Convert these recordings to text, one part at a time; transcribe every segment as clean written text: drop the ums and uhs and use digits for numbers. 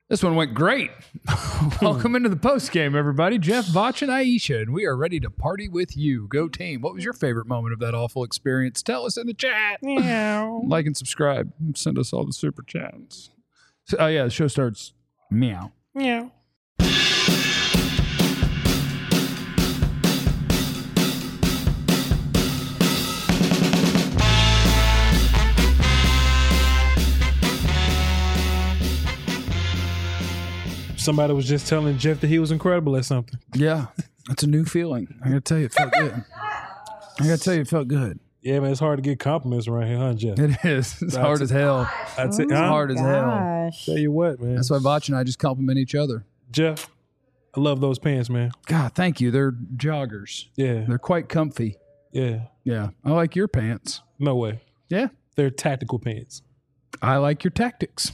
This one went great. Welcome into the post game, everybody. Jeff, Vach, and Aisha, and we are ready to party with you. Go team. What was your favorite moment of that awful experience? Tell us in the chat. Meow. Like and subscribe. Send us all the super chats. Oh, yeah, the show starts. Meow. Meow. Somebody was just telling Jeff that he was incredible at something. Yeah, it's a new feeling. I gotta tell you, it felt good. It felt good. Yeah, man, it's hard to get compliments around here, huh, Jeff? It is. It's hard as hell. I'd say, It's hard as hell. Tell you what, man. That's why Vach and I just compliment each other. Jeff, I love those pants, man. God, thank you. They're joggers. Yeah. They're quite comfy. Yeah. Yeah. I like your pants. No way. Yeah. They're tactical pants. I like your tactics.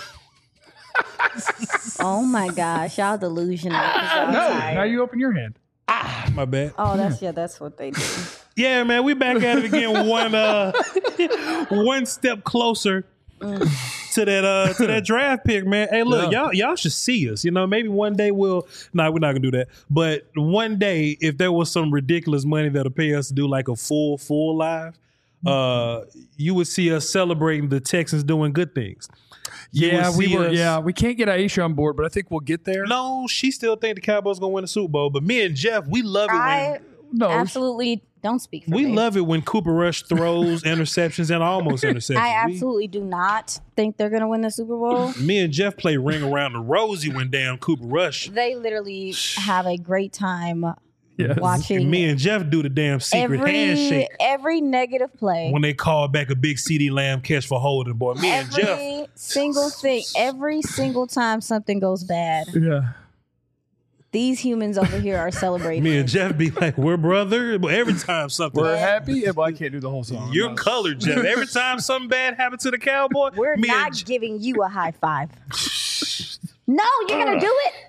Oh my gosh, y'all delusional. Now you open your hand. My bad. Oh, that's what they do. Yeah, man, we back at it again. One step closer to that draft pick, man. Hey, look, y'all should see us. You know, maybe one day we're not gonna do that. But one day, if there was some ridiculous money that'll pay us to do like a full live, you would see us celebrating the Texans doing good things. We can't get Aisha on board, but I think we'll get there. No, she still think the Cowboys gonna win the Super Bowl. But me and Jeff, we love it I absolutely don't speak for we me. love it when Cooper Rush throws interceptions and almost interceptions. I absolutely do not think they're going to win the Super Bowl. Me and Jeff play Ring Around the Rosie when damn Cooper Rush. They literally have a great time Yes. watching. Me and Jeff do the damn secret handshake every negative play. when they call back a big CeeDee Lamb catch for holding. Boy, me and Jeff. Every single thing, every single time something goes bad, Yeah. these humans over here are celebrating. Me and Jeff be like, we're brother. But every time something, We're happy. Yeah, but I can't do the whole song. you're colored, Jeff. Every time something bad happens to the Cowboy, We're me not and giving you a high five. No, you're going to do it?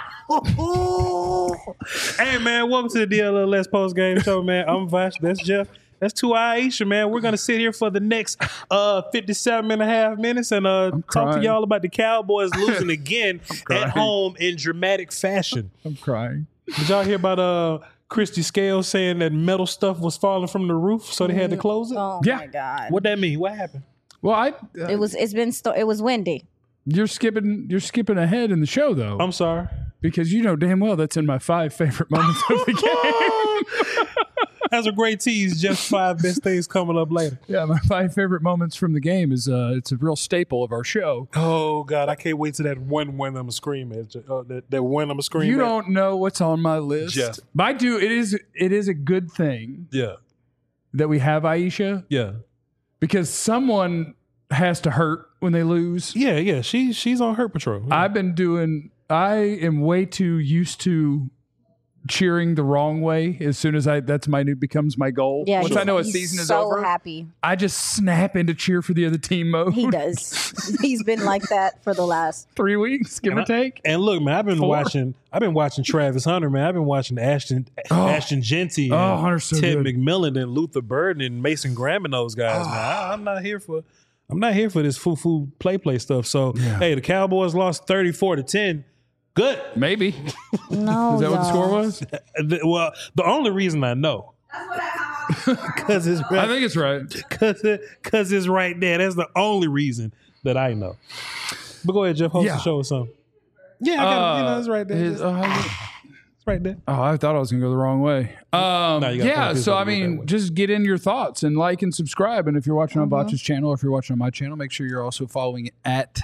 Hey, man, welcome to the DLLS post-game show, man. I'm Vash. That's Jeff. That's two Aisha, man. We're going to sit here for the next 57 and a half minutes and talk to y'all about the Cowboys losing again at home in dramatic fashion. I'm crying. Did y'all hear about Christy Scales saying that metal stuff was falling from the roof, so they had to close it? Oh, Yeah. my God. What that mean? What happened? Well, It was windy. you're skipping ahead in the show though, I'm sorry. because you know damn well that's in my 5 favorite moments of the game. That's a great tease. Just 5 best things coming up later. Yeah, my 5 favorite moments from the game is it's a real staple of our show. Oh, God. I can't wait to that one I'm going to scream at. That one I'm going to scream You at. don't know what's on my list, Jeff. but I do. It is a good thing Yeah. that we have Aisha Yeah. because someone has to hurt when they lose. Yeah. She's on Hurt Patrol. Yeah. I am way too used to cheering the wrong way as soon as becomes my goal. Yeah, Once I know a season is over, happy. I just snap into cheer for the other team mode. He does. He's been like that for the last 3 weeks, give or take. And look, man, I've been watching Travis Hunter, man. I've been watching Ashton Genty, and Hunter's so Ted good. McMillan, and Luther Burden, and Mason Graham, and those guys, man. I'm not here for this foo play stuff. So, hey, the Cowboys lost 34-10. Good. Maybe. No, Is that what the score was? Well, the only reason I know, because it's I think it's right. because it's right there. That's the only reason that I know. But go ahead, Jeff. Host the show or something. Yeah, I got it's right there. It's right there. Oh, I thought I was going to go the wrong way. you gotta So, I go that way. mean, just get in your thoughts and like and subscribe. And if you're watching on Botch's channel or if you're watching on my channel, make sure you're also following at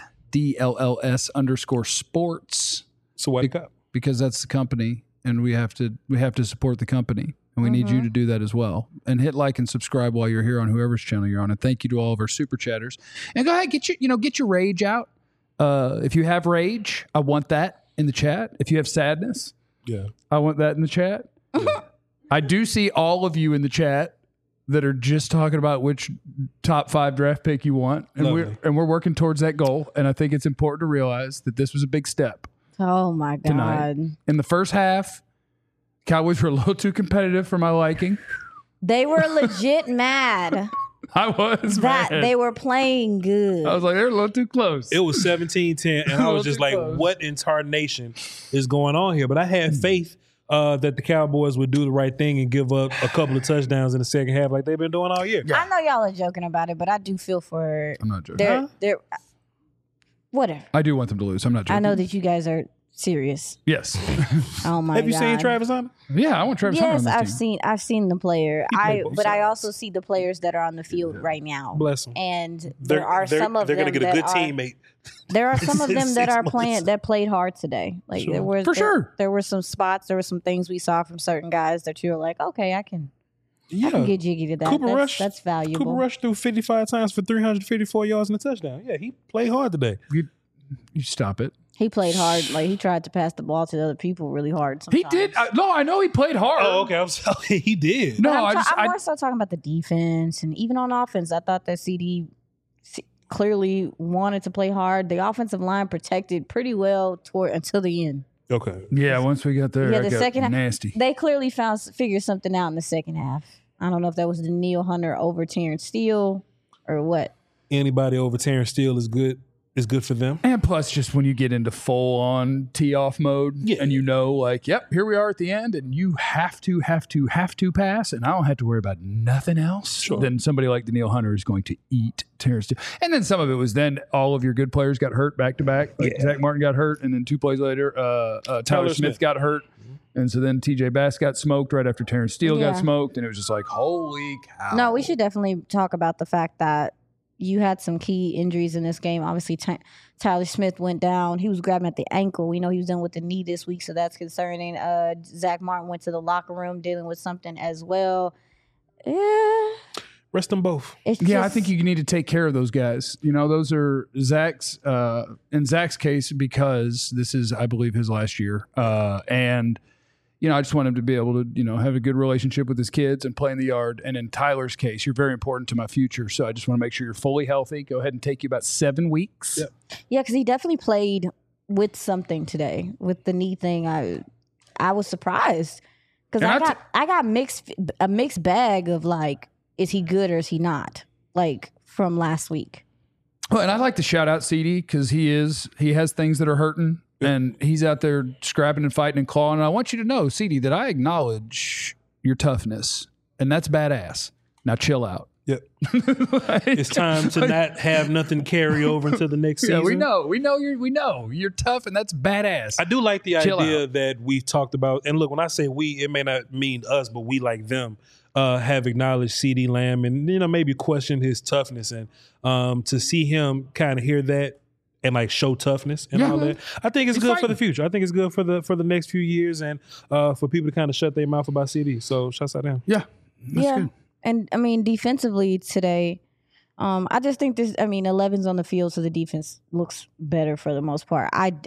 DLLS_sports. So wake up. Because that's the company and we have to support the company. And we need you to do that as well. And hit like and subscribe while you're here on whoever's channel you're on. And thank you to all of our super chatters. And go ahead, get your rage out. If you have rage, I want that in the chat. If you have sadness, Yeah. I want that in the chat. I do see all of you in the chat that are just talking about which top 5 draft pick you want. And Lovely. we're working towards that goal. And I think it's important to realize that this was a big step Oh my God. tonight. In the first half, Cowboys were a little too competitive for my liking. They were legit mad. I was, that man. they were playing good. I was like, they're a little too close. It was 17-10, and I was just like, what in tarnation is going on here? But I had faith that the Cowboys would do the right thing and give up a couple of touchdowns in the second half like they've been doing all year. I know y'all are joking about it, but I do feel for I'm not joking. they're whatever. I do want them to lose. I'm not joking. I know that you guys are serious. Yes. Oh my god. Have you seen Travis Hunter? Yeah, I want Travis Hunter on Yes, this team. I've seen the player. played both But I sides. also see the players that are on the field right now. Bless them. And there are They're some of them going to get a good that are, teammate. There are some of in them that 6 are months. playing that played hard today. Like Sure. there was For sure. There were some spots, there were some things we saw from certain guys that you were like, okay, I can get jiggy to that. That's valuable. Cooper Rush threw 55 times for 354 yards and a touchdown. Yeah, he played hard today. You stop it. He played hard. Like he tried to pass the ball to the other people really hard. He Sometimes. did. I know he played hard. Oh, okay. I'm sorry. He did. No, But I'm more so talking about the defense and even on offense. I thought that CD clearly wanted to play hard. The offensive line protected pretty well until the end. Okay. Yeah, once we got there, Yeah, I the got second half- nasty. They clearly figured something out in the second half. I don't know if that was the Neil Hunter over Terrence Steele or what. Anybody over Terrence Steele is good for them. And plus, just when you get into full on tee off mode, and you know, like, yep, here we are at the end, and you have to pass, and I don't have to worry about nothing else. Sure. Then somebody like Daniil Hunter is going to eat Terrence Steele. And then some of it was then all of your good players got hurt back to back. Like Zach Martin got hurt, and then 2 plays later, Tyler Smith got hurt. And so then TJ Bass got smoked right after Terrence Steele got smoked, and it was just like, holy cow. No, we should definitely talk about the fact that you had some key injuries in this game. Obviously, Tyler Smith went down. He was grabbing at the ankle. We know he was done with the knee this week, so that's concerning. Zach Martin went to the locker room dealing with something as well. Rest them both. I think you need to take care of those guys. You know, those are Zach's, in Zach's case, because this is, I believe, his last year. And, you know, I just want him to be able to, you know, have a good relationship with his kids and play in the yard. And in Tyler's case, you're very important to my future. So I just want to make sure you're fully healthy. Go ahead and take you about 7 weeks. Yep. Yeah, because he definitely played with something today with the knee thing. I was surprised because I got a mixed bag of like, is he good or is he not? Like from last week. Well, and I like to shout out CD because he has things that are hurting. And he's out there scrapping and fighting and clawing. And I want you to know, CD, that I acknowledge your toughness. And that's badass. Now chill out. Yep. It's time to not have nothing carry over into the next season. Yeah, we know you're tough, and that's badass. I do like the Chill idea out. that we've talked about. And look, when I say we, it may not mean us, but we like them. Have acknowledged CD Lamb and, you know, maybe questioned his toughness. And to see him kind of hear that and like show toughness and all that, I think it's good for the future. I think it's good for the next few years and for people to kind of shut their mouth about CD. So shouts out to him. Yeah. That's good. And I mean, defensively today, I just think 11's on the field, so the defense looks better for the most part.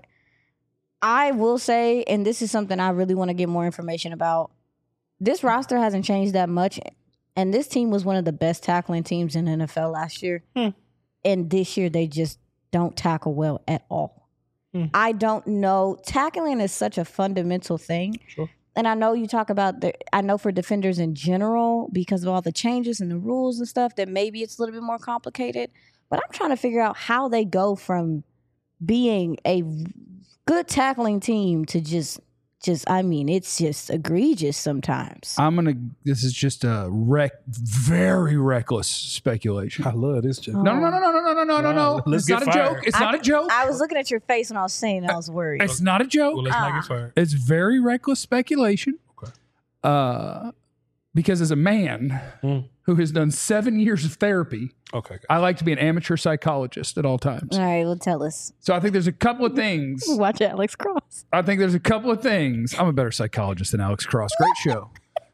I will say, and this is something I really want to get more information about, this roster hasn't changed that much, and this team was one of the best tackling teams in the NFL last year. And this year, they just don't tackle well at all. I don't know. Tackling is such a fundamental thing. Sure. And I know you talk about I know for defenders in general, because of all the changes and the rules and stuff, that maybe it's a little bit more complicated. But I'm trying to figure out how they go from being a good tackling team to just I mean, it's just egregious sometimes. This is just a very reckless speculation. I love this joke. No. Wow. Let's It's get not a fired. joke. It's not a joke. I was looking at your face when I was saying it, I was worried. It's not a joke. Well, let's not get fired. It's very reckless speculation. Okay. Because as a man who has done 7 years of therapy, Okay. I like to be an amateur psychologist at all times. All right, well, tell us. So I think there's a couple of things. Watch Alex Cross. I think there's a couple of things. I'm a better psychologist than Alex Cross. Great show.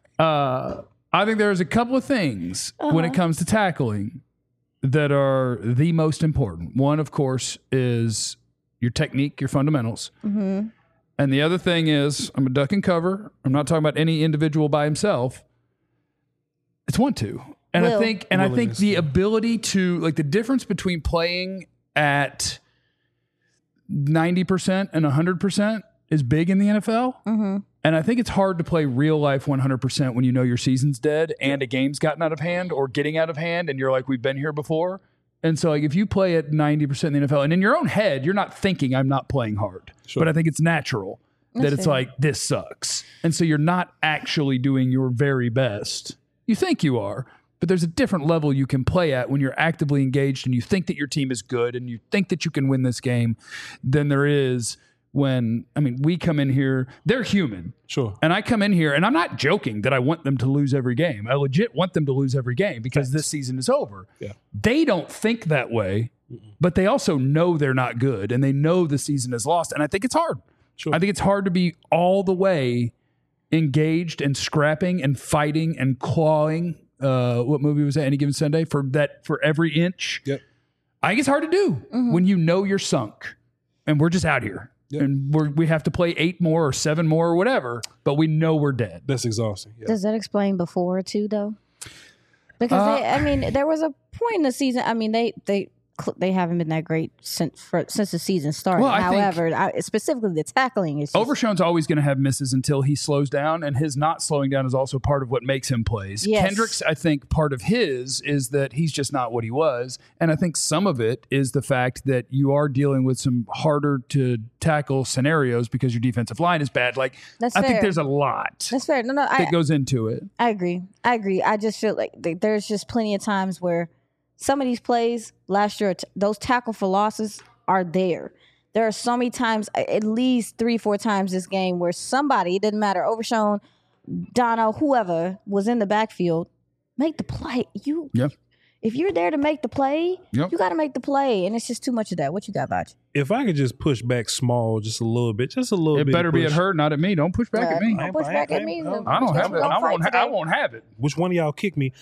I think there's a couple of things when it comes to tackling that are the most important. One, of course, is your technique, your fundamentals. Mm-hmm. And the other thing is, I'm a duck and cover. I'm not talking about any individual by himself. It's 1-2. And Will. I think the ability to, like, the difference between playing at 90% and 100% is big in the NFL. Mm-hmm. And I think it's hard to play real life 100% when you know your season's dead and a game's gotten out of hand or getting out of hand and you're like, we've been here before. And so like if you play at 90% in the NFL and in your own head, you're not thinking I'm not playing hard. Sure. But I think it's natural that it's like, this sucks. And so you're not actually doing your very best. You think you are, but there's a different level you can play at when you're actively engaged and you think that your team is good and you think that you can win this game than there is when, I mean, we come in here, they're human. Sure. And I come in here, and I'm not joking that I want them to lose every game. I legit want them to lose every game because this season is over. Yeah. They don't think that way, but they also know they're not good, and they know the season is lost. And I think it's hard. Sure. I think it's hard to be all the way engaged and scrapping and fighting and clawing. What movie was that? Any Given Sunday? For every inch. Yep. I think it's hard to do when you know you're sunk, and we're just out here. Yep. And we have to play 8 more or 7 more or whatever, but we know we're dead. That's exhausting. Yeah. Does that explain before too, though? Because there was a point in the season. I mean, they haven't been that great since the season started. Well, However, specifically the tackling is just, Overshown's always going to have misses until he slows down, and his not slowing down is also part of what makes him plays. Yes. Kendrick's, I think, part of his is that he's just not what he was, and I think some of it is the fact that you are dealing with some harder to tackle scenarios because your defensive line is bad. Like, That's I think fair. there's a lot that's fair. No, that goes into it. I agree. I just feel like there's just plenty of times where some of these plays last year, those tackle for losses are there. There are so many times, at least 3-4 times this game, where somebody, it didn't matter, Overshown, Dono, whoever was in the backfield, make the play. If you're there to make the play, you got to make the play, and it's just too much of that. What you got, Vaj? If I could just push back small, just a little bit. It better be at her, not at me. Don't push back at me. Don't push back at me. I don't have it. I won't have it. Which one of y'all kick me?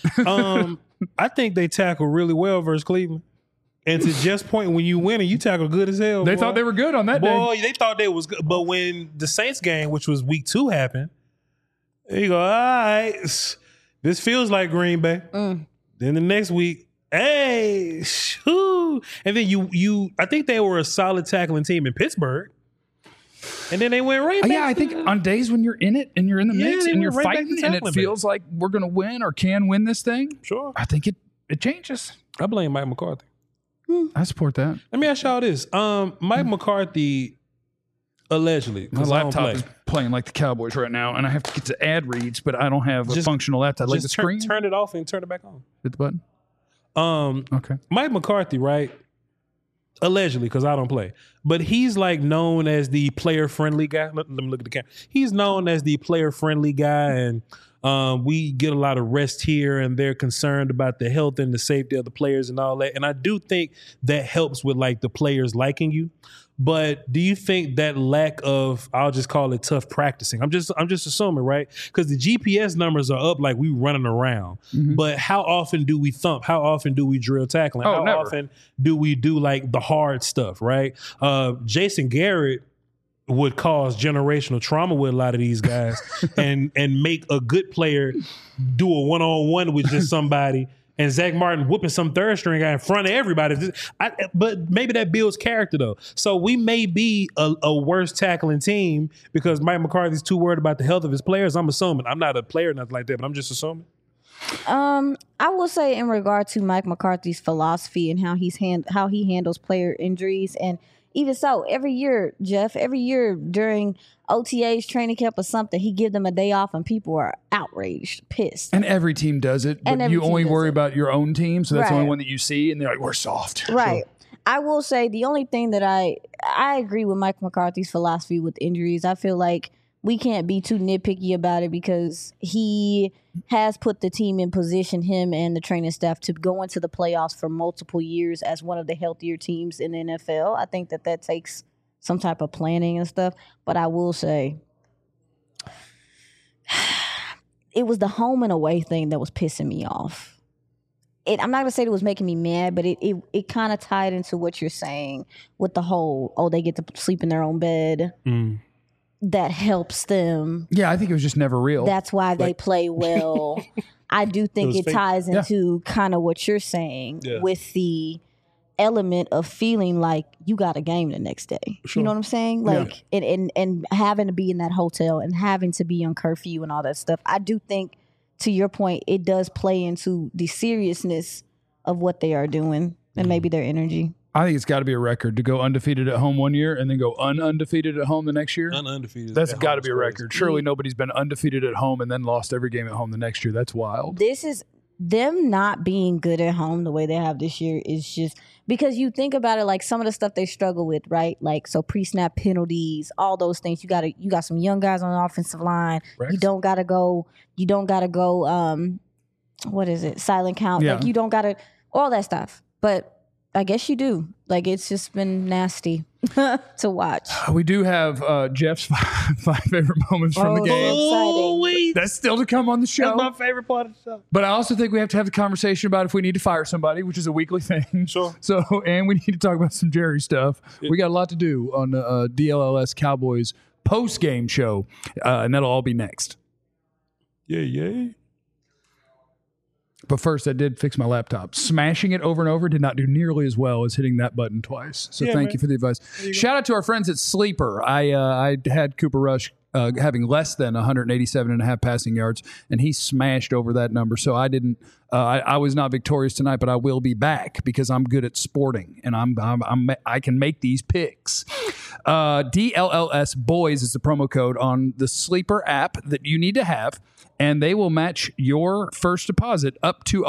I think they tackle really well versus Cleveland. And to Jeff's point, when you win and you tackle good as hell, They thought they were good on that day. boy, they thought they was good. But when the Saints game, which was week 2, happened, you go, all right, this feels like Green Bay. Then the next week, hey, shoo. And then you I think they were a solid tackling team in Pittsburgh. And then they went right back. Yeah, I think on days when you're in it and you're in the mix and you're right back fighting to and it tackling, feels like we're going to win or can win this thing, Sure. I think it changes. I blame Mike McCarthy. I support that. Let me ask y'all this. Mike McCarthy, allegedly. My laptop is playing like the Cowboys right now, and I have to get to ad reads, but I don't have a functional laptop. Like the screen? Turn it off and turn it back on. Hit the button? Okay. Mike McCarthy, right? Allegedly, because I don't play. But he's like known as the player-friendly guy. Let me look at the camera. He's known as the player-friendly guy, and we get a lot of rest here, and they're concerned about the health and the safety of the players and all that. And I do think that helps with like the players liking you. But do you think that lack of, I'll just call it tough practicing? I'm just assuming, right? Because the GPS numbers are up like we running around. But how often do we thump? How often do we drill tackling? How never. often do we do like the hard stuff, right? Jason Garrett would cause generational trauma with a lot of these guys and make a good player do a one-on-one with just somebody. And Zach Martin whooping some third string guy in front of everybody. But maybe that builds character, though. So we may be a worse tackling team because Mike McCarthy's too worried about the health of his players. I'm assuming. I'm not a player or nothing like that, but I'm just assuming. I will say in regard to Mike McCarthy's philosophy and how he handles player injuries, and even so, every year during OTAs, training camp or something, he give them a day off and people are outraged, pissed. And every team does it, but you only worry about your own team, so that's the only one that you see, and they're like, we're soft. Right. So. I will say the only thing that I agree with Mike McCarthy's philosophy with injuries. I feel like we can't be too nitpicky about it because he has put the team in position, him and the training staff, to go into the playoffs for multiple years as one of the healthier teams in the NFL. I think that takes some type of planning and stuff. But I will say it was the home and away thing that was pissing me off. I'm not going to say it was making me mad, but it kind of tied into what you're saying with the whole, they get to sleep in their own bed. That helps them. Yeah, I think it was just never real. That's why they play well. I do think it ties into kind of what you're saying with the element of feeling like you got a game the next day. Sure. You know what I'm saying? Like, and having to be in that hotel and having to be on curfew and all that stuff. I do think, to your point, it does play into the seriousness of what they are doing and maybe their energy. I think it's got to be a record to go undefeated at home one year and then go undefeated at home the next year. Undefeated. That's got to be a record. Surely nobody's been undefeated at home and then lost every game at home the next year. That's wild. This is them not being good at home the way they have this year is just because you think about it, like some of the stuff they struggle with, right? Like, so pre-snap penalties, all those things. You got some young guys on the offensive line. Rex? You don't gotta go what is it? Silent count. Yeah. Like, you don't gotta all that stuff. But I guess you do. Like, it's just been nasty to watch. We do have Jeff's five favorite moments from the game. Exciting. wait. That's still to come on the show. That's my favorite part of the show. But I also think we have to have the conversation about if we need to fire somebody, which is a weekly thing. Sure. So, and we need to talk about some Jerry stuff. We got a lot to do on the DLLS Cowboys post-game show, and that'll all be next. Yeah. But first, I did fix my laptop. Smashing it over and over did not do nearly as well as hitting that button twice. So thank you for the advice. Shout out to our friends at Sleeper. I had Cooper Rush having less than 187.5 passing yards, and he smashed over that number. So I didn't. I was not victorious tonight, but I will be back because I'm good at sporting, and I can make these picks. DLLS Boys is the promo code on the Sleeper app that you need to have. And they will match your first deposit up to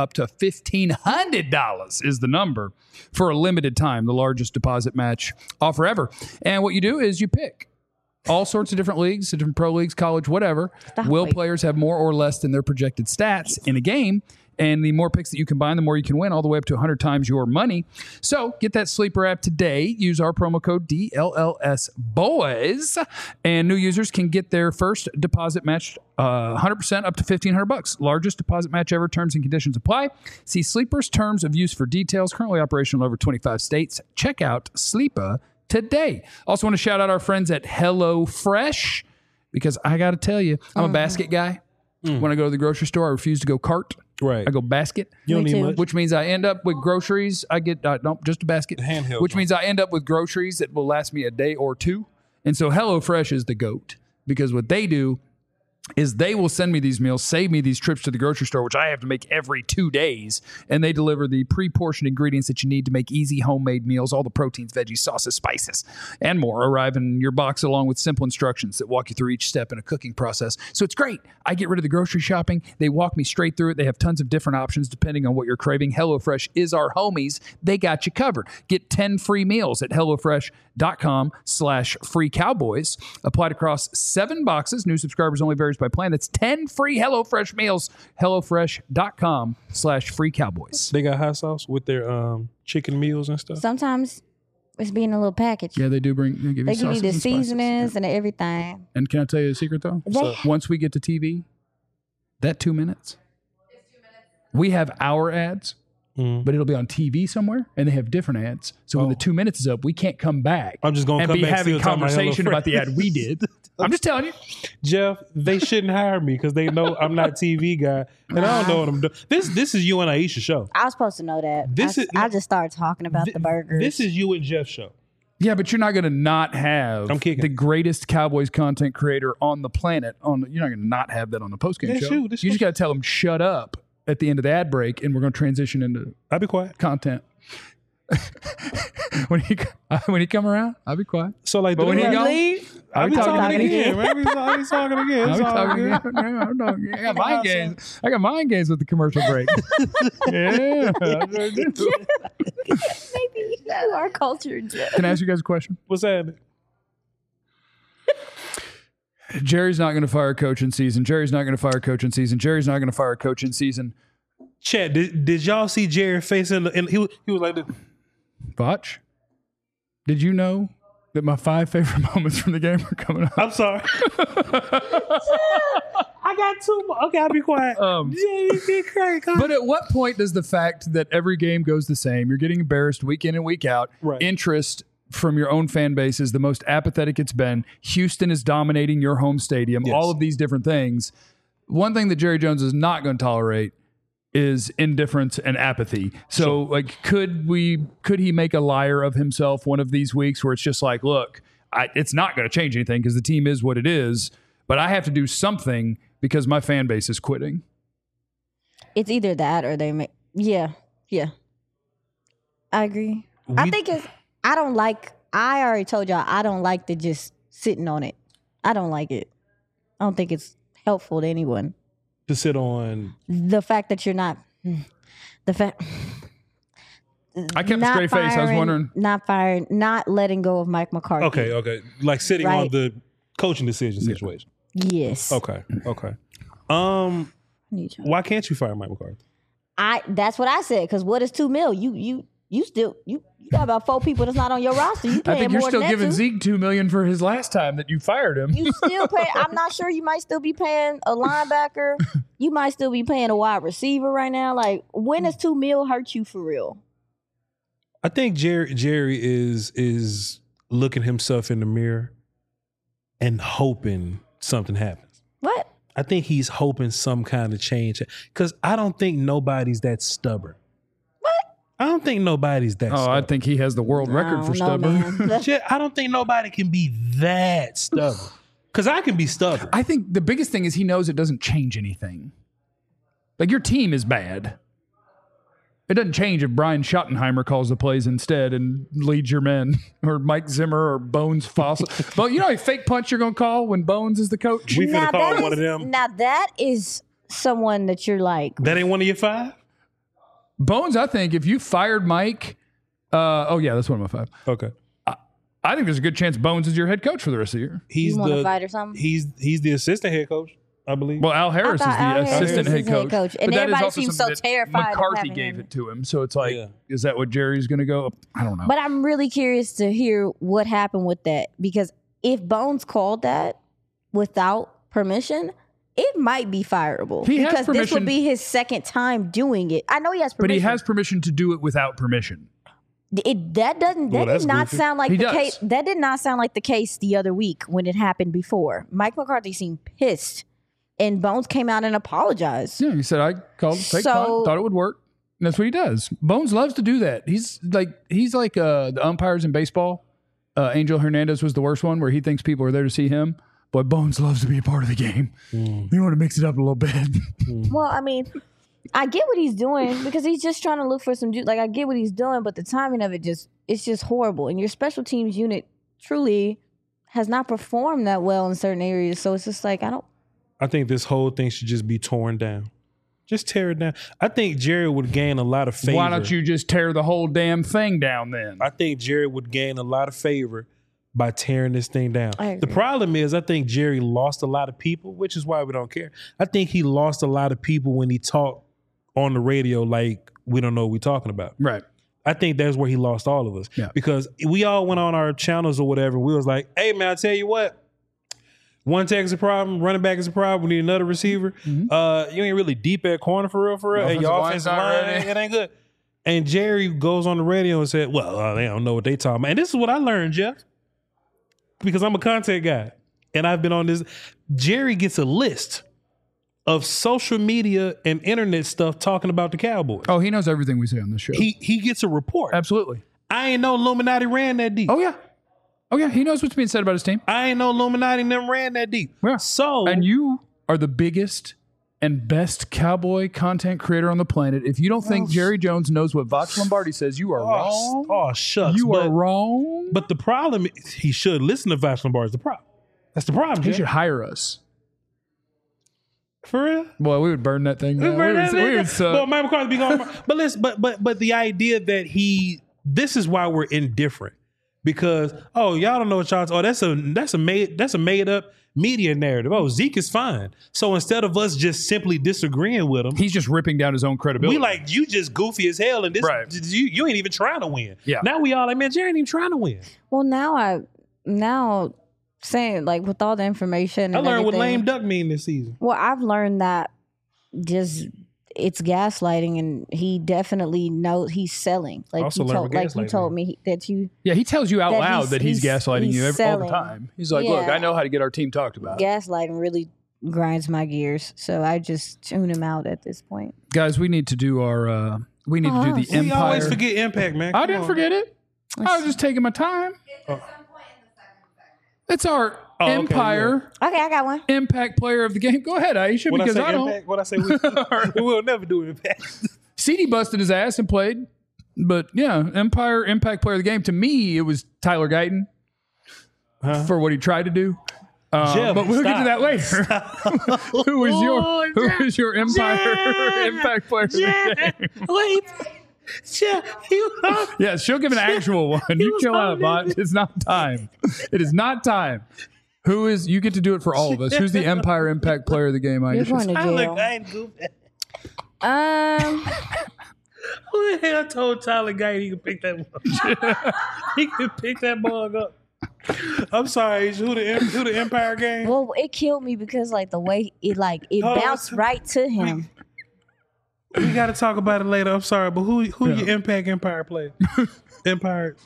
$1,500 is the number for a limited time, the largest deposit match offer ever. And what you do is you pick all sorts of different leagues, different pro leagues, college, whatever. Will players have more or less than their projected stats in a game? And the more picks that you combine, the more you can win, all the way up to 100 times your money. So get that Sleeper app today. Use our promo code DLLSBOYS. And new users can get their first deposit matched 100% up to $1,500. Largest deposit match ever. Terms and conditions apply. See Sleeper's terms of use for details. Currently operational in over 25 states. Check out Sleeper today. Also want to shout out our friends at HelloFresh, because I got to tell you, I'm a basket guy. When I go to the grocery store, I refuse to go cart. Right. I go basket. You don't Me need too. much. Which means I end up with groceries. I get, no, just a basket. Handheld Which one. means I end up with groceries that will last me a day or two. And so HelloFresh is the GOAT, because what they do is they will send me these meals, save me these trips to the grocery store, which I have to make every 2 days. And they deliver the pre-portioned ingredients that you need to make easy homemade meals. All the proteins, veggies, sauces, spices, and more arrive in your box, along with simple instructions that walk you through each step in a cooking process. So it's great. I get rid of the grocery shopping. They walk me straight through it. They have tons of different options depending on what you're craving. HelloFresh is our homies. They got you covered. Get 10 free meals at HelloFresh.com/freecowboys. Applied across 7 boxes. New subscribers only varies by plan. That's 10 free HelloFresh meals. HelloFresh.com/freecowboys. They got hot sauce with their chicken meals and stuff. Sometimes it's being a little package. Yeah, they do bring. They give They you, give you sauces the and spices. seasonings and everything. And can I tell you a secret though? Once we get to TV, that 2 minutes, we have our ads, but it'll be on TV somewhere, and they have different ads. So when the 2 minutes is up, we can't come back. I'm just gonna and come be back having still talking about conversation HelloFresh. about the ad we did. I'm just telling you. Jeff, they shouldn't hire me because they know I'm not a TV guy and I don't know what I'm doing. This is you and Aisha show. I was supposed to know that. This is- I just started talking about the burgers. This is you and Jeff's show. Yeah, but you're not going to not have I'm kicking. the greatest Cowboys content creator on the planet. You're not going to not have that on the postgame That's show. you. That's You just you. got to tell them shut up at the end of the ad break, and we're going to transition into I'll be quiet. content. when he come around, I'll be quiet. So like, But when he gone, leave. I'll be talking again. Man. He's talking again. I'll It's be all talking good. again. I'm talking again. I got mind games. I got mind games with the commercial break. Yeah. Maybe you are cultured. Can I ask you guys a question? What's happening? Jerry's not going to fire a coach in season. Jerry's not going to fire a coach in season. Jerry's not going to fire a coach in season. Chat, did y'all see Jerry face and he was like this. Vach, did you know that my 5 favorite moments from the game are coming up? I'm sorry. I got 2 more. Okay, I'll be quiet. Jerry did crack. But at what point does the fact that every game goes the same, you're getting embarrassed week in and week out, Right. interest from your own fan base is the most apathetic it's been. Houston is dominating your home stadium, Yes. all of these different things. One thing that Jerry Jones is not going to tolerate is indifference and apathy. So like, could he make a liar of himself one of these weeks where it's just like, look, it's not going to change anything because the team is what it is, but I have to do something because my fan base is quitting. It's either that or they make, yeah. I agree. I already told y'all, I don't like the just sitting on it. I don't like it. I don't think it's helpful to anyone. To sit on the fact that you're not I kept a straight face. I was wondering. Not firing, not letting go of Mike McCarthy. Okay. Like sitting on the coaching decision situation. Yes. Okay. Why can't you fire Mike McCarthy? That's what I said, because what is $2 million? You got about 4 people that's not on your roster. You paying I think you're more still than giving that Zeke $2 million for his last time that you fired him. You still pay. I'm not sure. You might still be paying a linebacker. You might still be paying a wide receiver right now. Like, when does $2 million hurt you for real? I think Jerry is looking himself in the mirror and hoping something happens. What? I think he's hoping some kind of change, because I don't think nobody's that stubborn. What? I don't think nobody's that stubborn. I think he has the world record for stubborn. I don't think nobody can be that stubborn. Because I can be stubborn. I think the biggest thing is he knows it doesn't change anything. Like, your team is bad. It doesn't change if Brian Schottenheimer calls the plays instead and leads your men, or Mike Zimmer or Bones Fossil. But you know a fake punch you're going to call when Bones is the coach? We finna call one of them. Now that is someone that you're like. That ain't one of your 5? Bones, I think if you fired Mike, that's one of my 5. Okay. I think there's a good chance Bones is your head coach for the rest of the year. You want to fight or something? He's the assistant head coach, I believe. Well, Al Harris is the assistant head coach. And everybody seems so terrified. McCarthy gave it to him. So it's like, is that what Jerry's going to go? I don't know. But I'm really curious to hear what happened with that. Because if Bones called that without permission, it might be fireable. Because this would be his second time doing it. I know he has permission. But he has permission to do it without permission. That did not sound like the case. That did not sound like the case the other week when it happened before. Mike McCarthy seemed pissed, and Bones came out and apologized. Yeah, he said, I called fake punt, thought it would work. And that's what he does. Bones loves to do that. He's like the umpires in baseball. Angel Hernandez was the worst one, where he thinks people are there to see him. But Bones loves to be a part of the game. You want to mix it up a little bit. Well, I mean, I get what he's doing, because he's just trying to look for some juice. Like, I get what he's doing, but the timing of it's just horrible. And your special teams unit truly has not performed that well in certain areas. So it's just like, I think this whole thing should just be torn down. Just tear it down. I think Jerry would gain a lot of favor. Why don't you just tear the whole damn thing down then? I think Jerry would gain a lot of favor by tearing this thing down. The problem is, I think Jerry lost a lot of people, which is why we don't care. I think he lost a lot of people when he talked on the radio like we don't know what we're talking about. Right. I think that's where he lost all of us. Yeah. Because we all went on our channels or whatever. We was like, hey, man, I tell you what. One tech is a problem. Running back is a problem. We need another receiver. Mm-hmm. You ain't really deep at corner for real. And your offensive line, it ain't good. And Jerry goes on the radio and said, well, they don't know what they talking about. And this is what I learned, Jeff. Because I'm a content guy. And I've been on this. Jerry gets a list of social media and internet stuff talking about the Cowboys. Oh, he knows everything we say on this show. He gets a report. Absolutely. I ain't know Illuminati ran that deep. Oh, yeah. He knows what's being said about his team. I ain't know Illuminati never ran that deep. Yeah. So, and you are the biggest and best Cowboy content creator on the planet. If you don't think Jerry Jones knows what Vox Lombardi says, you are wrong. Oh, shucks. You are wrong. But the problem is, he should listen to Vox Lombardi. The problem. That's the problem. He should hire us. For real? Boy, we would burn that thing down. We would suck. Well, Mike McCarthy be going. But the idea that this is why we're indifferent, because y'all don't know what y'all. That's a made up media narrative. Zeke is fine. So instead of us just simply disagreeing with him, he's just ripping down his own credibility. We like, you just goofy as hell, and this you ain't even trying to win. Yeah. Now we all like, man, Jerry ain't even trying to win. Well, now saying, like, with all the information, I learned what lame duck mean this season. Well, I've learned that just it's gaslighting, and he definitely knows he's selling. Like you told me that you. Yeah, he tells you out loud that he's gaslighting you all the time. He's like, look, I know how to get our team talked about. Gaslighting really grinds my gears. So I just tune him out at this point. Guys, we need to do our. We need to do the We Empire. always forget Impact, man. I Come didn't on. forget it. I was just taking my time. It's our okay, Empire Okay, I got one. Impact Player of the Game. Go ahead, Aisha, What because I say I don't. Impact? What I say? We will never do Impact. CD busted his ass and played, but yeah, Empire Impact Player of the Game. To me, it was Tyler Guyton for what he tried to do. Jeff, but we'll get to stop. that later. Who is your Empire Impact Player of the Game? Wait. Jeff, Yeah, she'll give an actual one. You was chill out, on bot. It's not time. It is not time. Who is? You get to do it for all of us. Who's the Empire Impact Player of the game? You're going Aisha? to I look, jail. I ain't goofy. Who the hell told Tyler Guyton he could pick that mug? He could pick that mug up. I'm sorry, who the Empire game? Well, it killed me because like the way it Oh, bounced right to him. We got to talk about it later. I'm sorry, but who your Empire player? Impact.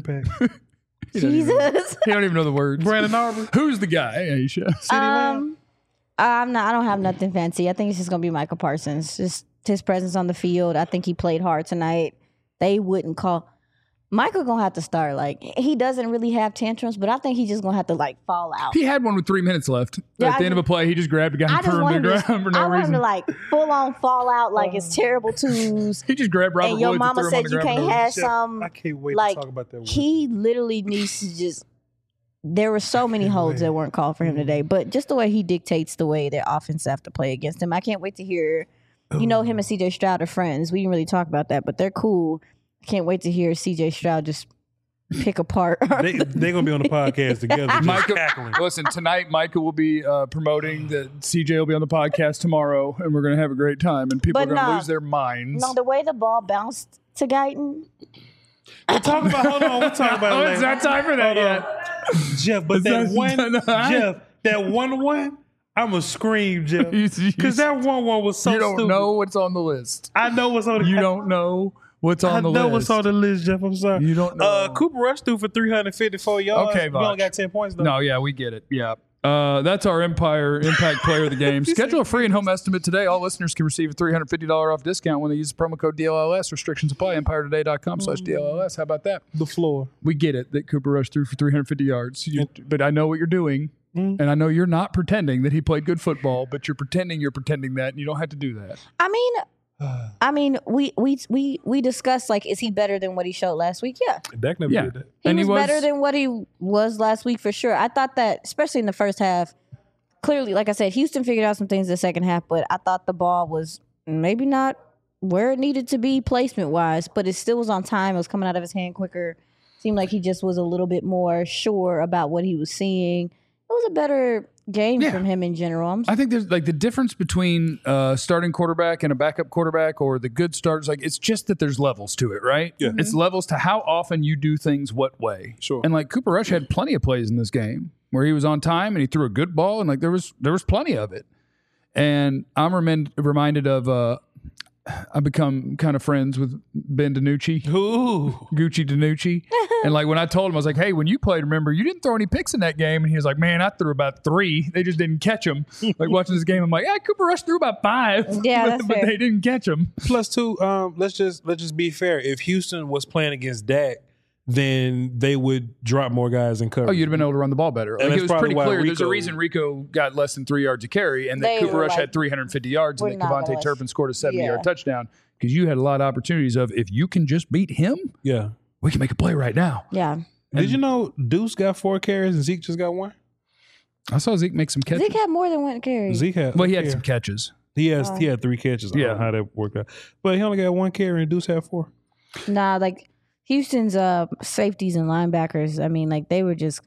Jesus. He don't even know the words. Brandon Aubrey. Who's the guy, Aisha? I'm not. I don't have nothing fancy. I think it's just gonna be Michael Parsons. Just his presence on the field. I think he played hard tonight. They wouldn't call. Michael gonna have to start. Like he doesn't really have tantrums, but I think he's just gonna have to like fall out. He had one with 3 minutes left. Yeah, At the end of a play, he just grabbed a guy I and just threw him want to him the to, ground for no I want him reason. to like full on fall out like it's terrible twos. He just grabbed Robert And your Woods mama and threw him said on the you ground. can't have Jeff, some. I can't wait like to talk about that. One. he literally needs to just. There were so many holds that weren't called for him today, but just the way he dictates the way their offense have to play against him, I can't wait to hear. You know, him and CJ Stroud are friends. We didn't really talk about that, but they're cool. I can't wait to hear CJ Stroud just pick apart. They're gonna be on the podcast together. Just Micah, cackling. listen, tonight Micah will be promoting that CJ will be on the podcast tomorrow, and we're going to have a great time, and people But are going to no. lose their minds. No, the way the ball bounced to Guyton. We'll talk about. Hold on, we'll talk about it Oh, later. it's not time for that Hold yet. on. Jeff. But that It's one, not- Jeff, that one, I'ma scream, Jeff, because that one was so You don't stupid. know what's on the list. I know what's on the. You don't know what's on I the know list. what's on the list, Jeff. I'm sorry. You don't know. Cooper Rush threw for 354 yards. Okay, we only Voch. got 10 points though. No, yeah, we get it. Yeah. That's our Empire Impact Player of the Game. Schedule a free and home estimate today. All listeners can receive a $350 off discount when they use the promo code DLLS. Restrictions apply. EmpireToday.com/DLLS. How about that? The floor. We get it that Cooper Rush threw for 350 yards. But I know what you're doing. And I know you're not pretending that he played good football, but you're pretending that, and you don't have to do that. I mean, we discussed like, is he better than what he showed last week? Yeah, Dak never Yeah. did that. he And was better than what he was last week for sure. I thought that, especially in the first half, clearly, like I said, Houston figured out some things in the second half, but I thought the ball was maybe not where it needed to be placement wise, but it still was on time. It was coming out of his hand quicker. Seemed like he just was a little bit more sure about what he was seeing. It was a better game from him in general. I think there's like the difference between starting quarterback and a backup quarterback, or the good starters. Like it's just that there's levels to it, right? Yeah. It's levels to how often you do things what way. Sure. And like Cooper Rush had plenty of plays in this game where he was on time and he threw a good ball, and like there was plenty of it. And I'm reminded of I've become kind of friends with Ben DiNucci. Ooh. Gucci DiNucci. And like when I told him, I was like, hey, when you played, remember, you didn't throw any picks in that game. And he was like, man, I threw about 3. They just didn't catch them. Like watching this game, I'm like, yeah, Cooper Rush threw about 5. Yeah, that's but fair. they didn't catch him. Plus two, let's just be fair. If Houston was playing against Dak, then they would drop more guys in coverage. Oh, you'd have been able to run the ball better. Like that's it was probably pretty why clear. There's a Rico- reason Rico got less than 3 yards a carry, and that They Cooper were Rush like, had 350 yards, and we're that not Devontae gonna- Turpin scored a 70-yard Yeah. touchdown. Because you had a lot of opportunities of, if you can just beat him, Yeah. we can make a play right now. Yeah. Did you know Deuce got 4 carries and Zeke just got 1? I saw Zeke make some catches. Zeke had more than one carry. Zeke had. Well, he had yeah. some catches. He had 3 catches. I don't Yeah. know how that worked out, but he only got 1 carry and Deuce had 4. Nah, like Houston's safeties and linebackers. I mean, like they were just.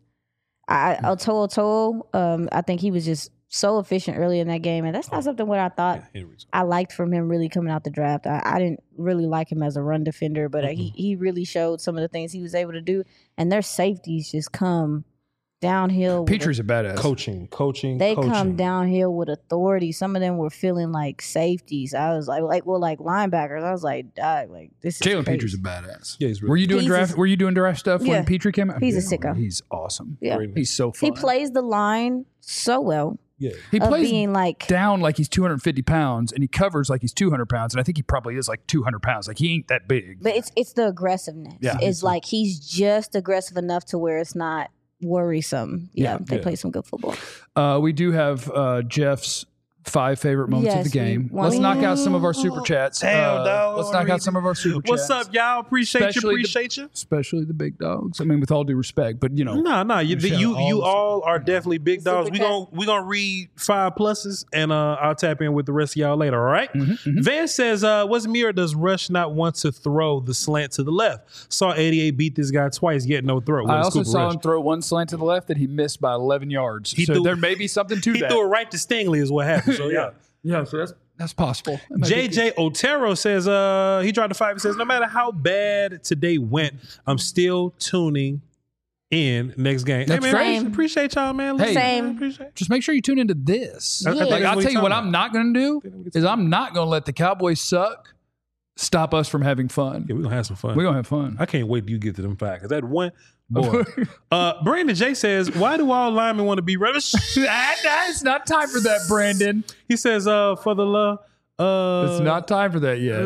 To'o. I think he was just so efficient early in that game, and that's not something what I thought I liked from him really coming out the draft. I didn't really like him as a run defender, but he really showed some of the things he was able to do, and their safeties just come downhill. Petry's a badass. Coaching. They come downhill with authority. Some of them were feeling like safeties. I was like linebackers. I was like, this is Jalen crazy. Petry's a badass. Yeah, he's really Were you doing He's draft? a- Were you doing draft stuff Yeah. when Petry came out? He's a sicko. He's awesome. Yeah. great. He's so fun. He plays the line so well. He of plays being like down like he's 250 pounds, and he covers like he's 200 pounds, and I think he probably is like 200 pounds. Like, he ain't that big. But it's the aggressiveness. Yeah. It's like he's just aggressive enough to where it's not worrisome. Yeah, they play some good football. We do have Jeff's 5 favorite moments of the game. Let's knock out some of our super chats. Damn, dog. Let's knock out some of our super chats. What's up, y'all? Appreciate you. Especially the big dogs. I mean, with all due respect, but you know. No. You all are definitely big dogs. Super We gonna read 5 pluses, and I'll tap in with the rest of y'all later. All right. Van says, "Was me or does Rush not want to throw the slant to the left? Saw 88 beat this guy twice, yet no throw." I also saw him throw one slant to the left that he missed by 11 yards. There may be something to that. He threw it right to Stingley, is what happened. So yeah. Yeah, so that's possible. JJ Otero says, he dropped a 5. He says, "No matter how bad today went, I'm still tuning in next game." That's hey, man, great. Appreciate y'all, man. Hey, Same. Appreciate just make sure you tune into this. I think Like, that's I'll what tell he's you what talking I'm not going to do is I'm not going to let the Cowboys suck stop us from having fun. Yeah, we're gonna have some fun. We're going to have fun. I can't wait till you get to them 5 because that one boy. Brandon J says, "Why do all linemen want to be rubbish?" It's not time for that, Brandon. He says, "For the love." It's not time for that yet.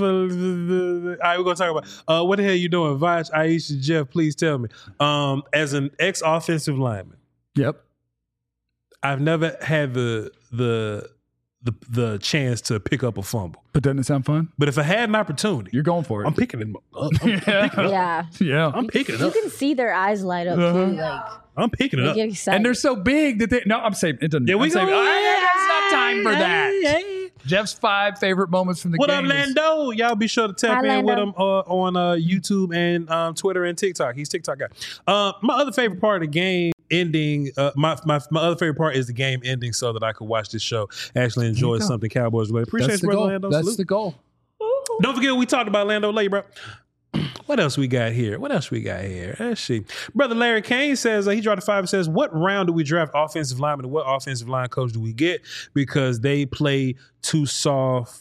All right, we're gonna talk about what the hell you doing, Vaj, Aisha, Jeff? Please tell me. As an ex-offensive lineman, Yep. I've never had the chance to pick up a fumble. But doesn't it sound fun? But if I had an opportunity, You're going for it. I'm picking it up. Yeah. Yeah. I'm picking it You up. can see their eyes light up too. Like I'm picking it they up. get excited. And they're so big that they. No, I'm saying it doesn't. Yeah, we I'm saying, go. it's not time for that. Hey. Jeff's 5 favorite moments from the What game. up, Lando? Y'all be sure to tap Hi, in with Lando. him on YouTube and Twitter and TikTok. He's TikTok guy. My other favorite part of the game ending. My other favorite part is the game ending, so that I could watch this show, actually enjoy something Cowboys related. Appreciate That's you, the brother goal. Lando. That's Salute. the goal. Don't forget we talked about Lando later, bro. What else we got here? Let's see. Brother Larry Kane says, he dropped a 5 and says, "What round do we draft offensive linemen and what offensive line coach do we get? Because they play too soft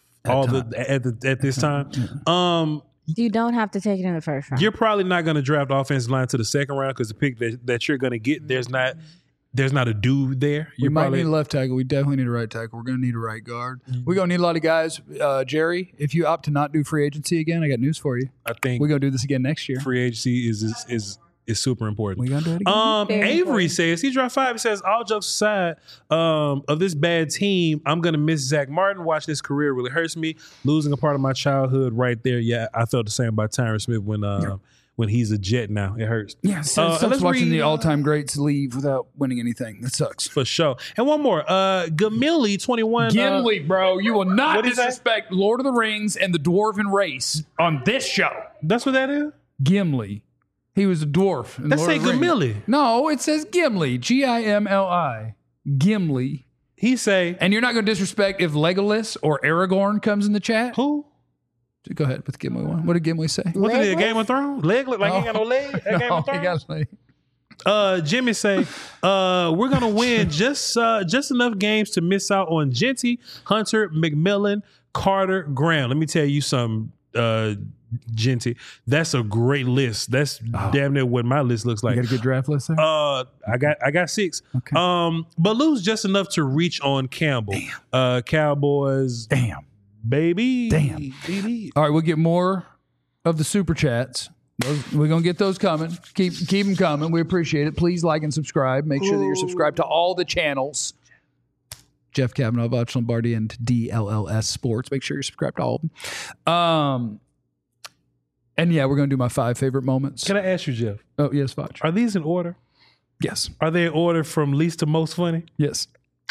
at this time." You don't have to take it in the first round. You're probably not going to draft offensive line to the second round because the pick that you're going to get, there's not a dude there. We might need a left tackle. We definitely need a right tackle. We're going to need a right guard. We're going to need a lot of guys. Jerry, if you opt to not do free agency again, I got news for you. I think We're going to do this again next year. free agency is super important. We're going to do it again. Very Avery important. says, he dropped 5. He says, "All jokes aside, of this bad team, I'm going to miss Zach Martin. Watching his career really hurts me. Losing a part of my childhood right there. Yeah, I felt the same about Tyron Smith when he's a Jet now. It hurts. Yeah, so it sucks let's watching read, the all-time greats leave without winning anything. That sucks. for sure. And one more. Gamilli 21. Gimli, bro, you will not What'd he say? disrespect Lord of the Rings and the Dwarven race on this show. That's what that is? Gimli. He was a dwarf. in Let's Lord say of the Rings. Gamilli. No, it says Gimli. Gimli. Gimli. He say, And you're not going to disrespect if Legolas or Aragorn comes in the chat? who? Go ahead with the Gimli one. What did Gimli say? What did it? Legless? Game of Thrones? Leg look like he ain't got no leg? That Game of he Thrones? got like, Jimmy say, we're gonna win just enough games to miss out on Genty, Hunter, McMillan, Carter, Graham. Let me tell you something, Genty. That's a great list. That's damn near what my list looks like. you got a good draft list there? I got 6. Okay. But lose just enough to reach on Campbell. Cowboys, Damn. baby. Damn. Baby. All right, we'll get more of the super chats. We're going to get those coming. Keep them coming. We appreciate it. Please like and subscribe. Make sure that you're subscribed to all the channels. Jeff Kavanaugh, Vach Lombardi, and DLLS Sports. Make sure you're subscribed to all of them. And yeah, we're going to do my 5 favorite moments. Can I ask you, Jeff? Oh, yes, Vach. Are these in order? Yes. Are they in order from least to most funny? Yes.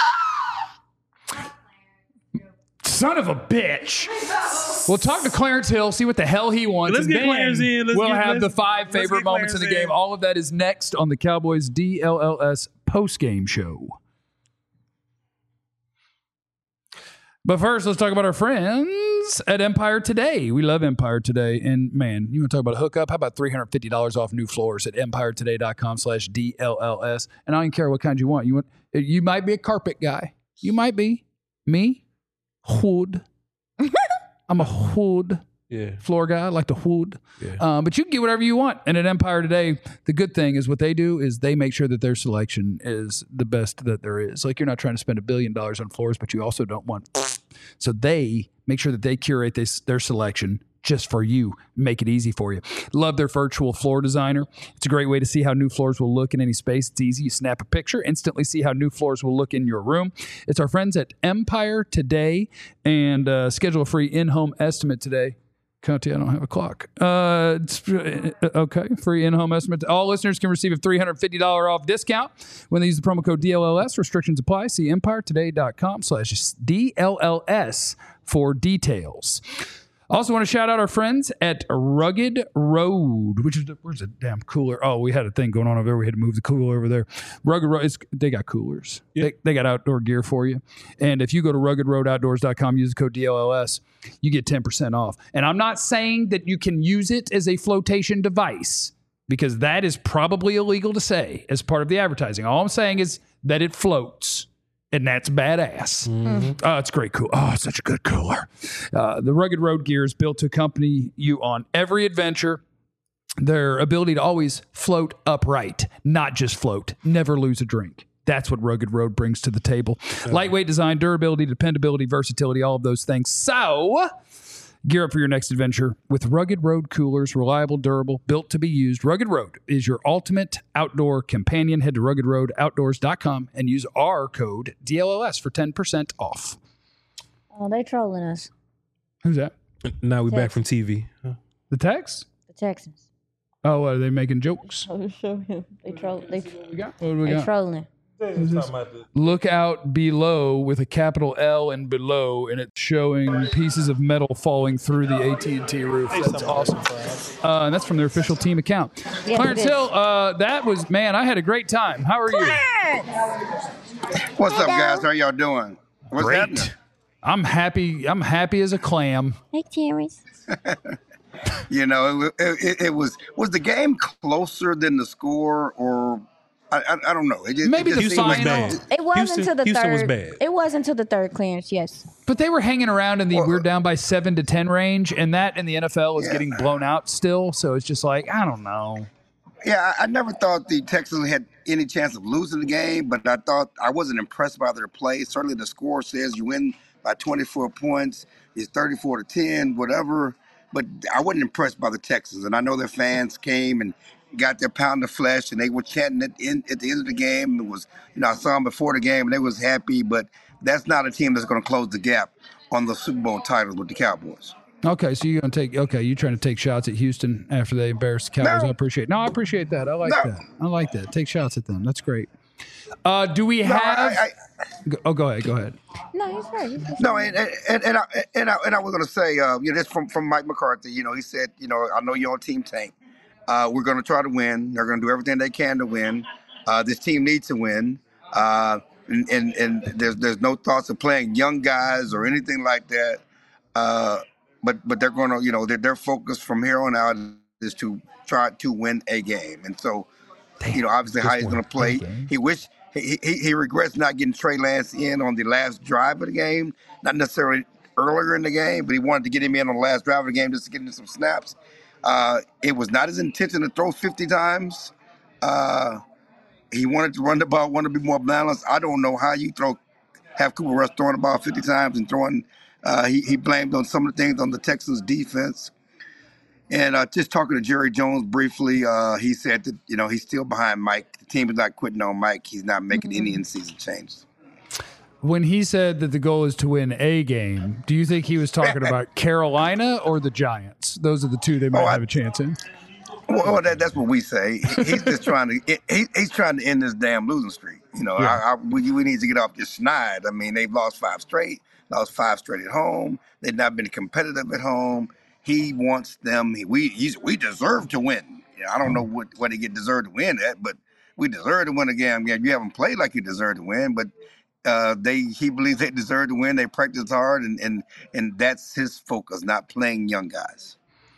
Son of a bitch. We'll talk to Clarence Hill, see what the hell he wants. Let's and get then Clarence in. We'll have the 5 favorite get moments of the Clarence game. in. All of that is next on the Cowboys DLLS postgame show. But first, let's talk about our friends at Empire Today. We love Empire Today. And man, you want to talk about a hookup? How about $350 off new floors at empiretoday.com/DLLS? And I don't care what kind you want. You might be a carpet guy. You might be. Me? Hood. I'm a hood. floor guy. I like the wood. Yeah. But you can get whatever you want. And at Empire Today, the good thing is what they do is they make sure that their selection is the best that there is. Like, you're not trying to spend $1 billion on floors, but you also don't want. So they make sure that they curate their selection just for you, make it easy for you. Love their virtual floor designer. It's a great way to see how new floors will look in any space. It's easy. You snap a picture, instantly see how new floors will look in your room. It's our friends at Empire Today, and schedule a free in-home estimate today. Conti, I don't have a clock. Okay, free in-home estimate. All listeners can receive a $350 off discount when they use the promo code DLLS. Restrictions apply. See EmpireToday.com/DLLS for details. Also want to shout out our friends at Rugged Road, which is where's the damn cooler? Oh, we had a thing going on over there. We had to move the cooler over there. Rugged Road, they got coolers. Yeah. They got outdoor gear for you. And if you go to ruggedroadoutdoors.com, use the code DLLS, you get 10% off. And I'm not saying that you can use it as a flotation device, because that is probably illegal to say as part of the advertising. All I'm saying is that it floats. And that's badass. Mm-hmm. Oh, it's great. Cool. Oh, it's such a good cooler. The Rugged Road gear is built to accompany you on every adventure. Their ability to always float upright, not just float, never lose a drink. That's what Rugged Road brings to the table. Lightweight design, durability, dependability, versatility, all of those things. So gear up for your next adventure with Rugged Road coolers, reliable, durable, built to be used. Rugged Road is your ultimate outdoor companion. Head to ruggedroadoutdoors.com and use our code DLLS for 10% off. Oh, they trolling us. Who's that? Now we're back from TV. Huh? The Tex? The Texans. Oh, are they making jokes? I'll show him. They troll. They got? trolling. Look out below with a capital L and below, and it's showing pieces of metal falling through the AT&T roof. That's awesome. And that's from their official team account. Yeah, Clarence Hill, that was, man, I had a great time. How are you? What's up, guys? How y'all doing? What's Great. happening? I'm happy. I'm happy as a clam. Hey, Terrence. You know, it was the game closer than the score, or I don't know. Maybe the Houston was final. bad. It wasn't until the Houston third. was bad. It wasn't until the third clearance. Yes. But they were hanging around in the we're down by 7 to 10 range, and that in the NFL is getting blown out still. So it's just like, I don't know. Yeah, I never thought the Texans had any chance of losing the game, but I wasn't impressed by their play. Certainly, the score says you win by 24 points. It's 34 to 10, whatever. But I wasn't impressed by the Texans, and I know their fans came and got their pound of flesh, and they were chanting at the end of the game. It was, I saw them before the game, and they was happy. But that's not a team that's going to close the gap on the Super Bowl titles with the Cowboys. Okay, so you're trying to take shots at Houston after they embarrass the Cowboys. No. I appreciate that. I like that. I like that. Take shots at them. That's great. Do we have? Go ahead. No, he's right. No, and I was going to say, this from Mike McCarthy. He said, I know you're on Team Tank. We're going to try to win. They're going to do everything they can to win. This team needs to win. And there's no thoughts of playing young guys or anything like that. But they're going to, their focus from here on out is to try to win a game. And so, obviously how he's going to play. He regrets not getting Trey Lance in on the last drive of the game, not necessarily earlier in the game, but he wanted to get him in on the last drive of the game just to get him some snaps. It was not his intention to throw 50 times. He wanted to run the ball, wanted to be more balanced. I don't know how you have Cooper Rush throwing the ball 50 times and throwing. He blamed on some of the things on the Texans defense. And just talking to Jerry Jones briefly, he said that, he's still behind Mike. The team is not quitting on Mike. He's not making any in-season changes. When he said that the goal is to win a game, do you think he was talking about Carolina or the Giants? Those are the two they might have a chance in. Well, that's what we say. He's just trying to he's trying to end this damn losing streak. We need to get off this schneid. I mean, they've lost 5 straight, lost 5 straight at home. They've not been competitive at home. He wants them. We deserve to win. I don't know what they get deserved to win at, but we deserve to win a game. You haven't played like you deserve to win, but he believes they deserve to win. They practice hard, and that's his focus, not playing young guys.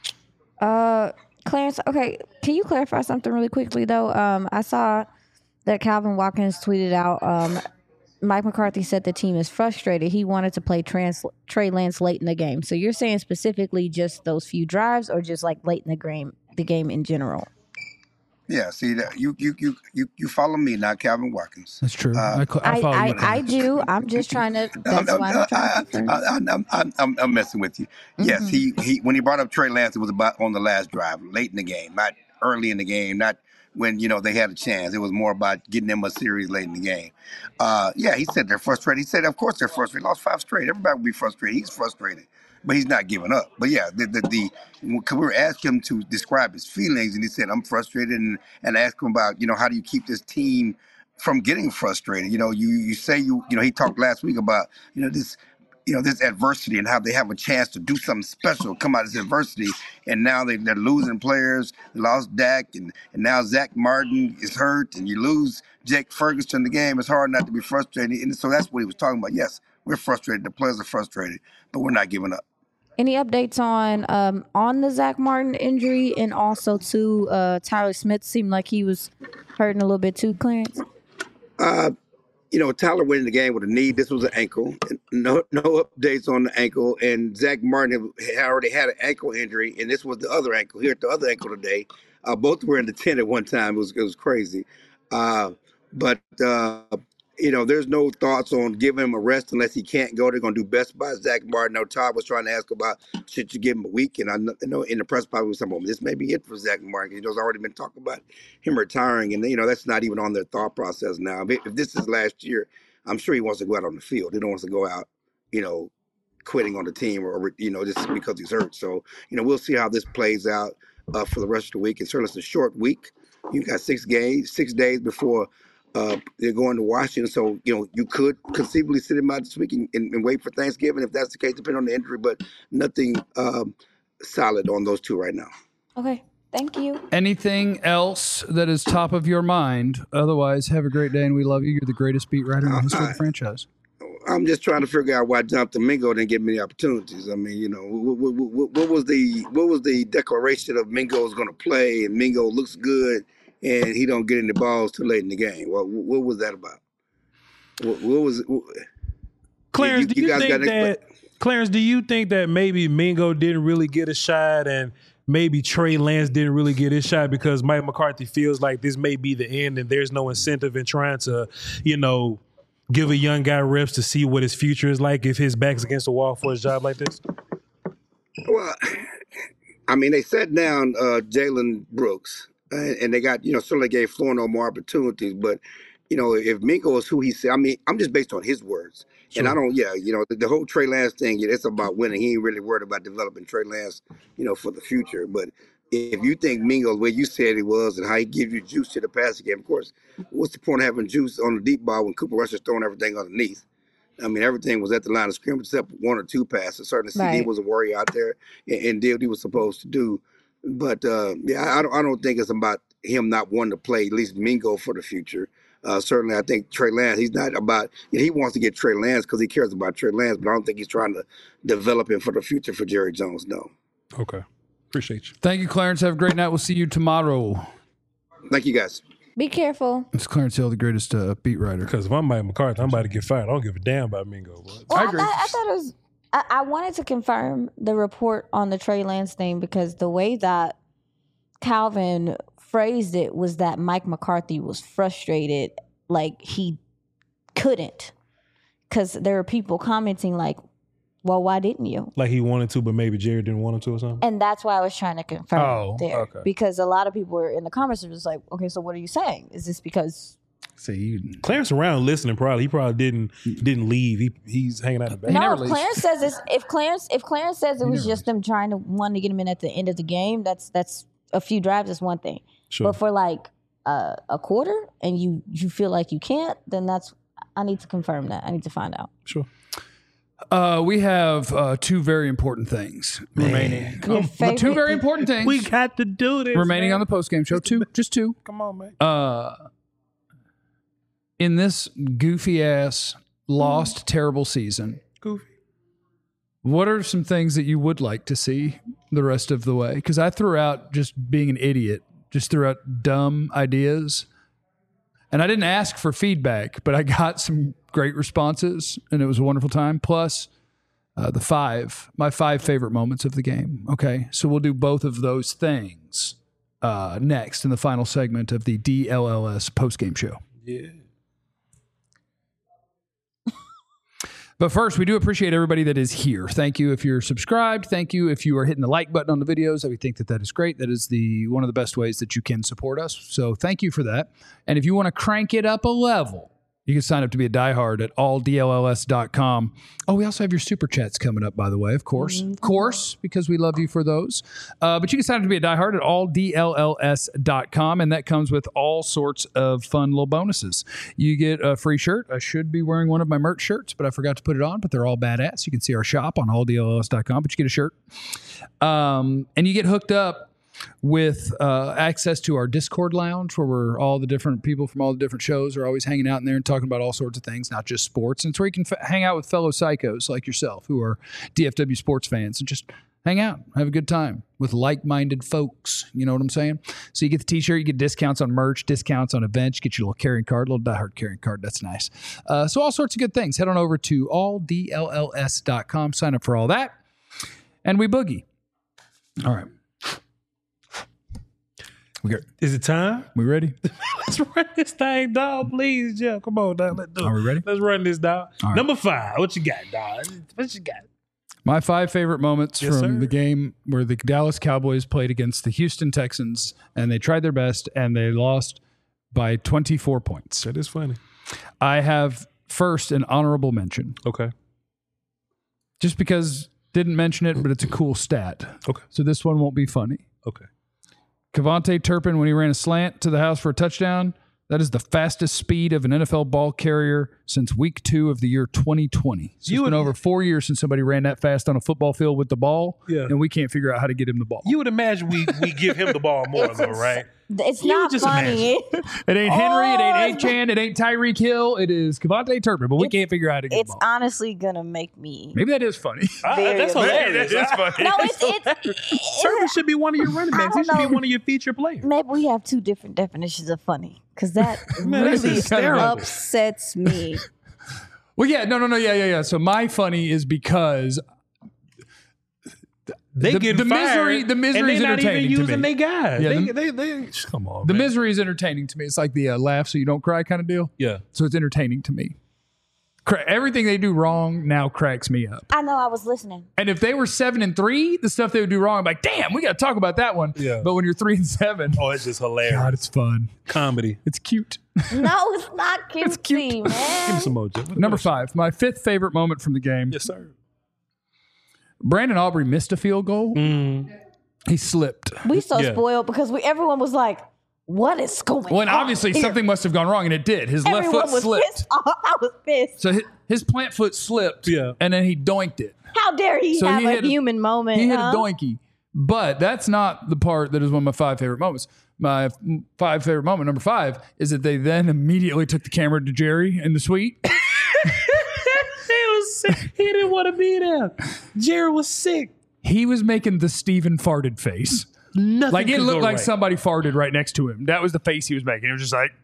Clarence, okay, can you clarify something really quickly though? I saw that Calvin Watkins tweeted out Mike McCarthy said the team is frustrated. He wanted to play Trey Lance late in the game. So you're saying specifically just those few drives, or just like late in the game in general? Yeah, see that you follow me, not Calvin Watkins. That's true. I follow you. I do. I'm just trying to. That's why I'm trying to confirm. I'm messing with you. Yes, he when he brought up Trey Lance, it was about on the last drive, late in the game, not early in the game, not when they had a chance. It was more about getting them a series late in the game. Yeah, he said they're frustrated. He said, of course they're frustrated. Lost 5 straight. Everybody would be frustrated. He's frustrated, but he's not giving up. But yeah, we were asking him to describe his feelings, and he said, I'm frustrated, and asked him about, how do you keep this team from getting frustrated? You say he talked last week about, this adversity and how they have a chance to do something special, come out of this adversity, and now they're losing players. They lost Dak, and now Zach Martin is hurt, and you lose Jake Ferguson in the game. It's hard not to be frustrated, and so that's what he was talking about. Yes, we're frustrated. The players are frustrated, but we're not giving up. Any updates on the Zach Martin injury, and also too, Tyler Smith seemed like he was hurting a little bit too, Clarence? Tyler went in the game with a knee. This was an ankle. No updates on the ankle. And Zach Martin had already had an ankle injury, and this was the other ankle. Here at the other ankle today. Both were in the tent at one time. It was crazy. There's no thoughts on giving him a rest unless he can't go. They're going to do best by Zach Martin. Now, Todd was trying to ask about, should you give him a week? And I know in the press conference, we said, well, this may be it for Zach Martin. There's already been talk about him retiring. And, that's not even on their thought process now. If this is last year, I'm sure he wants to go out on the field. He don't want to go out, quitting on the team or just because he's hurt. So, we'll see how this plays out for the rest of the week. And certainly it's a short week. You got 6 days before they're going to Washington, so you could conceivably sit him out this week and wait for Thanksgiving if that's the case, depending on the injury. But nothing solid on those two right now. Okay, thank you. Anything else that is top of your mind? Otherwise, have a great day, and we love you. You're the greatest beat writer in the history of the franchise. I'm just trying to figure out why Jonathan Mingo didn't get many opportunities. I mean, what was the declaration of Mingo is going to play, and Mingo looks good, and he don't get any balls too late in the game? What was that about? What was Clarence? Clarence, do you think that maybe Mingo didn't really get a shot, and maybe Trey Lance didn't really get his shot because Mike McCarthy feels like this may be the end, and there's no incentive in trying to, give a young guy reps to see what his future is like if his back's against the wall for a job like this? Well, I mean, they sat down Jalen Brooks, and they got, certainly gave Florno more opportunities. But, if Mingo is who he said, I mean, I'm just based on his words. Sure. And I don't, the whole Trey Lance thing, it's about winning. He ain't really worried about developing Trey Lance, for the future. But if you think Mingo, the way you said it was, and how he gives you juice to the passing game, of course, what's the point of having juice on the deep ball when Cooper Rush is throwing everything underneath? I mean, everything was at the line of scrimmage except 1 or 2 passes. Certainly, CD was a worry out there and did what he was supposed to do. But, I don't think it's about him not wanting to play, at least Mingo, for the future. Certainly, I think Trey Lance, he's not about, he wants to get Trey Lance because he cares about Trey Lance, but I don't think he's trying to develop him for the future for Jerry Jones, no. Okay. Appreciate you. Thank you, Clarence. Have a great night. We'll see you tomorrow. Thank you, guys. Be careful. It's Clarence Hill, the greatest beat writer. Because if I'm Mike McCarthy, I'm about to get fired. I don't give a damn about Mingo. Well, I agree. I thought it was, I wanted to confirm the report on the Trey Lance thing because the way that Calvin phrased it was that Mike McCarthy was frustrated, like he couldn't. Because there were people commenting like, well, why didn't you? Like he wanted to, but maybe Jerry didn't want him to or something? And that's why I was trying to confirm there. Okay. Because a lot of people were in the comments were just like, okay, so what are you saying? Is this because... See, Clarence around listening probably. He probably didn't leave. He's hanging out in the back. No, if Clarence says this, if Clarence says it was just them trying to want to get him in at the end of the game, that's a few drives is one thing. Sure. But for like a quarter and you feel like you can't, then I need to confirm that. I need to find out. Sure. We have 2 very important things remaining. 2 very important things. We got to do this. Remaining on the postgame show. Just 2. Come on, man. In this goofy ass, lost, terrible season, what are some things that you would like to see the rest of the way? Because I threw out just being an idiot, just threw out dumb ideas. And I didn't ask for feedback, but I got some great responses, and it was a wonderful time. Plus, my 5 favorite moments of the game. Okay, so we'll do both of those things next in the final segment of the DLLS postgame show. Yeah. But first, we do appreciate everybody that is here. Thank you if you're subscribed. Thank you if you are hitting the like button on the videos. We think that is great. That is one of the best ways that you can support us. So thank you for that. And if you want to crank it up a level, you can sign up to be a diehard at alldlls.com. Oh, we also have your super chats coming up, by the way, of course. Of course, because we love you for those. But you can sign up to be a diehard at alldlls.com, and that comes with all sorts of fun little bonuses. You get a free shirt. I should be wearing one of my merch shirts, but I forgot to put it on, but they're all badass. You can see our shop on alldlls.com, but you get a shirt. And you get hooked up with access to our Discord lounge, where all the different people from all the different shows are always hanging out in there and talking about all sorts of things, not just sports. And it's where you can hang out with fellow psychos like yourself who are DFW sports fans and just hang out, have a good time with like-minded folks. You know what I'm saying? So you get the t-shirt, you get discounts on merch, discounts on events, you get your little carrying card, little diehard carrying card. That's nice. So all sorts of good things. Head on over to alldlls.com, sign up for all that, and we boogie. All right. Is it time? We ready? Let's run this thing, dog. Please, Jeff. Come on, dog. Let's do it. Are we ready? Let's run this, dog. Right. Number 5. What you got, dog? What you got? My 5 favorite moments from the game where the Dallas Cowboys played against the Houston Texans, and they tried their best, and they lost by 24 points. That is funny. I have first an honorable mention. Okay. Just because didn't mention it, but it's a cool stat. Okay. So this one won't be funny. Okay. Kevontae Turpin, when he ran a slant to the house for a touchdown, that is the fastest speed of an NFL ball carrier since week 2 of the year 2020. So it's been over 4 years since somebody ran that fast on a football field with the ball, and we can't figure out how to get him the ball. You would imagine we give him the ball more, though, right? It's not funny. It ain't Henry, it ain't A-Chan, it ain't Tyreek Hill, it is Kevontae Turpin, but we can't figure out how to get the ball. It's honestly going to make me... Maybe that is funny. That's hilarious. That is funny. No, it's Turpin should be one of your running backs. He should be one of your feature players. Maybe we have 2 different definitions of funny, because that that's really hysterical. upsets me. Well, yeah, no, yeah. So my funny is because they get the fired, misery is entertaining and they're not even to using me. their guys. Yeah, they come on. The man. misery is entertaining to me. It's like the laugh so you don't cry kind of deal. Yeah. So it's entertaining to me. Everything they do wrong now cracks me up. I know, I was listening. And if they were 7-3, the stuff they would do wrong, I'm like, damn, we got to talk about that one. Yeah. But when you're 3-7, Oh, it's just hilarious. God, it's fun. Comedy. It's cute. No, it's not cutesy, cute. man. Give me some more, Jeff. Number 5, my 5th favorite moment from the game. Yes, sir. Brandon Aubrey missed a field goal. He slipped. We so Yeah. spoiled because everyone was like, what is going on? Well, and obviously here? something must have gone wrong, and it did. His left Everyone foot was slipped. pissed off. I was pissed. So his plant foot slipped, and then he doinked it. How dare he So have he a hit a- human moment? He hit huh? a doinky. But that's not the part that is one of my 5 favorite moments. My 5 favorite moment, number 5, is that they then immediately took the camera to Jerry in the suite. He was sick. He didn't want to be there. Jared was sick. He was making the Steven farted face. Nothing Like it could looked go like right. somebody farted right next to him. That was the face he was making. It was just like,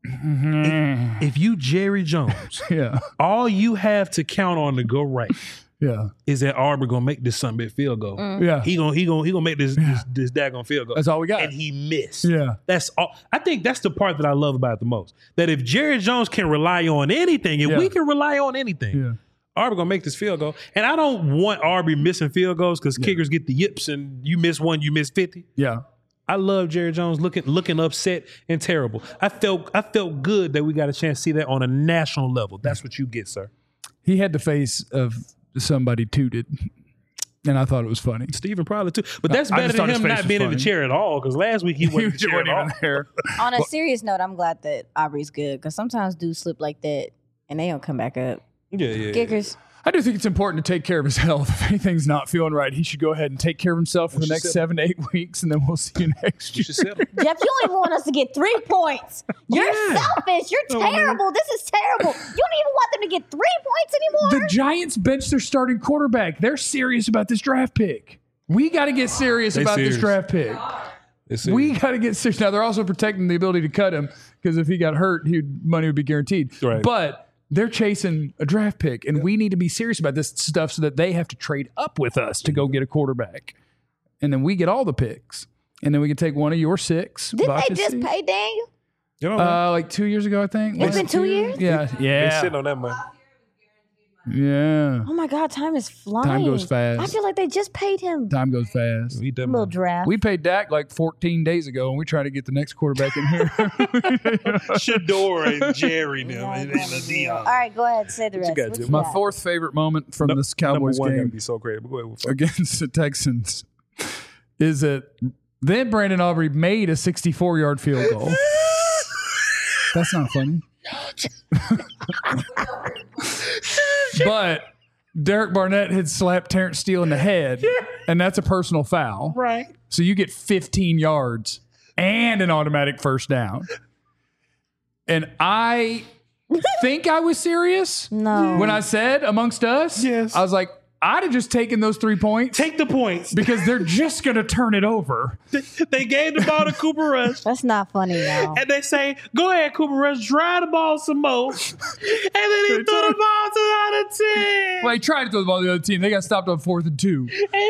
If you Jerry Jones, yeah, all you have to count on to go right yeah, is that Aubrey gonna make this something big field goal. yeah. He gonna make this daggone field goal. That's all we got. And he missed. Yeah. That's all. I think that's the part that I love about it the most. That if Jerry Jones can rely on anything, if Yeah. we can rely on anything, Yeah. Aubrey gonna make this field goal. And I don't want Aubrey missing field goals because kickers get the yips and you miss one, you miss 50. Yeah. I love Jerry Jones looking upset and terrible. I felt good that we got a chance to see that on a national level. That's what you get, sir. He had the face of somebody tooted, and I thought it was funny. Steven probably too. But that's I better just than thought his him face not was being in the funny. chair at all because last week he wasn't in the chair at all. there. On a serious note, I'm glad that Aubrey's good because sometimes dudes slip like that and they don't come back up. Yeah. Kickers. I do think it's important to take care of his health. If anything's not feeling right, he should go ahead and take care of himself for the next 7 to 8 weeks, and then we'll see you next You year. should settle. Jeff, you don't even want us to get 3 points. You're selfish. You're terrible. This is terrible. You don't even want them to get 3 points anymore. The Giants benched their starting quarterback. They're serious about this draft pick. We got to get serious They about serious. this draft pick. We got to get serious. Now, they're also protecting the ability to cut him because if he got hurt, money would be guaranteed. Right. But they're chasing a draft pick, and we need to be serious about this stuff so that they have to trade up with us to go get a quarterback. And then we get all the picks. And then we can take one of your 6. Didn't they just pay Daniel? You know, like 2 years ago, I think. It's been 2 years? Yeah. they sitting on that money. Yeah. Oh my God, time is flying. Time goes fast. I feel like they just paid him. Time goes fast. We done Little draft. We paid Dak like 14 days ago, and we try to get the next quarterback in here. Shador and Jerry now and Dion. All right, go ahead. Say the rest. got, What Jim? you My got? 4th favorite moment from this Cowboys Number 1 game gotta be so great. But go ahead. against the Texans is that then Brandon Aubrey made a 64-yard field goal. That's not funny. But Derek Barnett had slapped Terrence Steele in the head, and that's a personal foul. Right. So you get 15 yards and an automatic first down. And I think I was serious No. when I said amongst us. Yes. I was like, I'd have just taken those 3 points Take the points. because they're just going to turn it over. They gave the ball to Cooper Rush. That's not funny, y'all. And they say, go ahead, Cooper Rush, drive the ball some more. And then he threw the ball to the other team. Well, he tried to throw the ball to the other team. They got stopped on 4th and 2.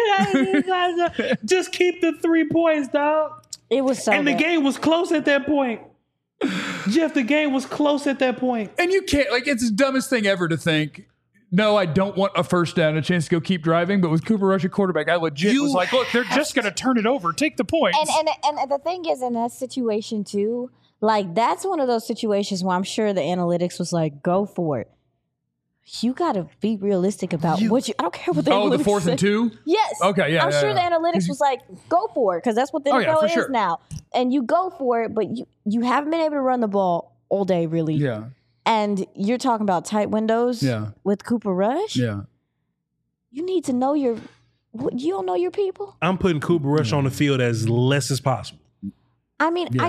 And just keep the 3 points, dog. It was so And the bad. game was close at that point. Jeff, the game was close at that point. And you can't, like, it's the dumbest thing ever to think, no, I don't want a first down, a chance to go keep driving. But with Cooper Rush at quarterback, I legit was like, look, they're just going to turn it over. Take the points. And the thing is, in that situation too, like that's one of those situations where I'm sure the analytics was like, go for it. You got to be realistic about what you. I don't care what the Oh, the analytics 4th say. and 2? Yes. Okay, yeah, I'm yeah, sure yeah. the analytics was like, go for it, because that's what the Oh, yeah, NFL for is sure. now. And you go for it, but you haven't been able to run the ball all day, really. Yeah. And you're talking about tight windows Yeah. with Cooper Rush. Yeah. You need to know you don't know your people. I'm putting Cooper Rush on the field as less as possible. I mean, Yeah.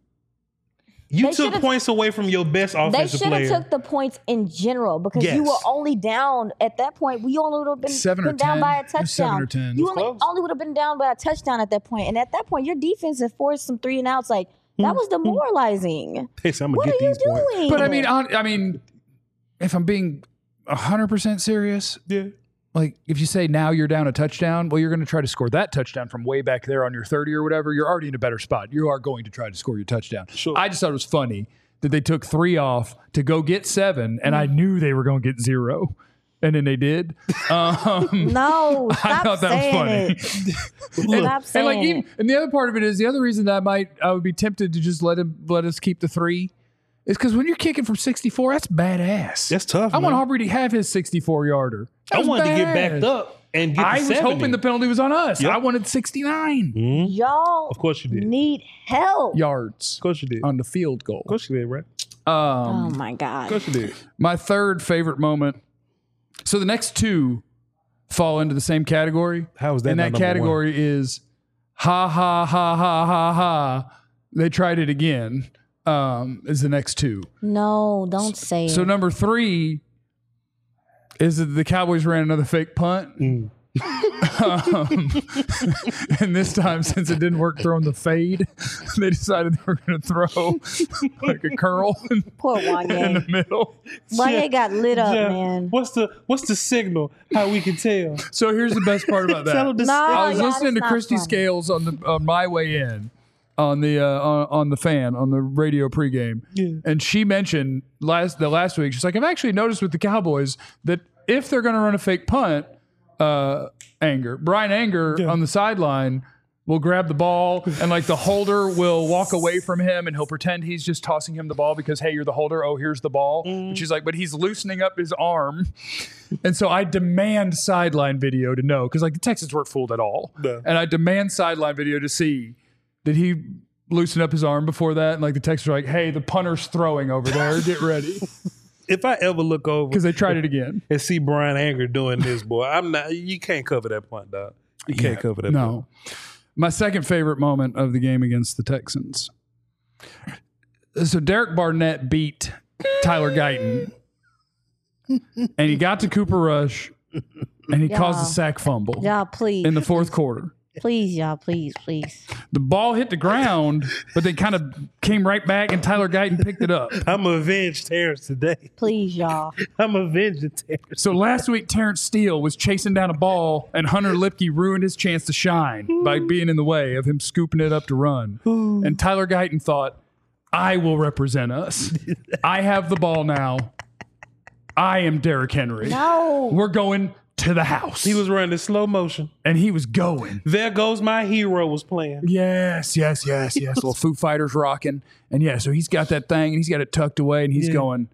You They took should've- points away from your best they offensive should have player. took the points in general because you Yes. were only down at that point. We only would have been, 7 or been down 10. by a It was 7 touchdown. or 10. You It was only would have been down by a touchdown at that point. And at that point, your defense had forced some 3 and outs. Like that was demoralizing. They said, I'm What gonna are get you these points. doing? But I mean, if I'm being 100% serious, Yeah. like if you say now you're down a touchdown, well, you're going to try to score that touchdown from way back there on your 30 or whatever. You're already in a better spot. You are going to try to score your touchdown. Sure. I just thought it was funny that they took 3 off to go get 7, and I knew they were going to get 0. And then they did. No, stop I thought that was saying funny. it. Stop And saying like it. even, and the other part of it is the other reason that I would be tempted to just let us keep the 3 is because when you're kicking from 64, that's badass. That's tough, I want man. Aubrey to have his 64-yarder. I wanted to get backed up and get I to was 70. hoping the penalty was on us. Yep. I wanted 69 Y'all Of course you did. need help. yards Of course you did. on the field goal. Of course you did, right? Oh my Of God. course you did. My third favorite moment. So the next 2 fall into the same category. How is that And not that number category is ha ha ha ha ha ha. They tried it again. Is the next 2. No, don't say So it. number 3 is that the Cowboys ran another fake punt. And this time, since it didn't work throwing the fade, they decided they were going to throw like a curl Poor in the Wanye. middle. Wanye got lit up, Yeah. man. What's the signal? How we can tell? So here's the best part about Tell that. them the No. I was yeah, listening to that's not Christy funny. Scales on my way in on the fan on the radio pregame, and she mentioned last week. She's like, I've actually noticed with the Cowboys that if they're going to run a fake punt, Brian Anger on the sideline will grab the ball and like the holder will walk away from him and he'll pretend he's just tossing him the ball because, hey, you're the holder. Oh, here's the ball. And she's like, but he's loosening up his arm. And so I demand sideline video to know because like the Texans weren't fooled at all. No. And I demand sideline video to see did he loosen up his arm before that? And like the Texans are like, hey, the punter's throwing over there. Get ready. If I ever look over Because they tried it again. and see Brian Anger doing this, boy, I'm not. You can't cover that punt, dog. You can't cover that. No. My second favorite moment of the game against the Texans. So Derek Barnett beat Tyler Guyton. And he got to Cooper Rush and he caused a sack fumble Y'all, please. in the 4th quarter. Please, y'all. Please. The ball hit the ground, but then kind of came right back, and Tyler Guyton picked it up. I'm avenged Terrence today. Please, y'all. I'm avenged Terrence. So last week, Terrence Steele was chasing down a ball, and Hunter Lipke ruined his chance to shine by being in the way of him scooping it up to run. And Tyler Guyton thought, I will represent us. I have the ball now. I am Derrick Henry. No. We're going to the house. He was running in slow motion. And he was going. There Goes My Hero was playing. Yes. Little Foo Fighters rocking. And yeah, so he's got that thing, and he's got it tucked away, and he's going,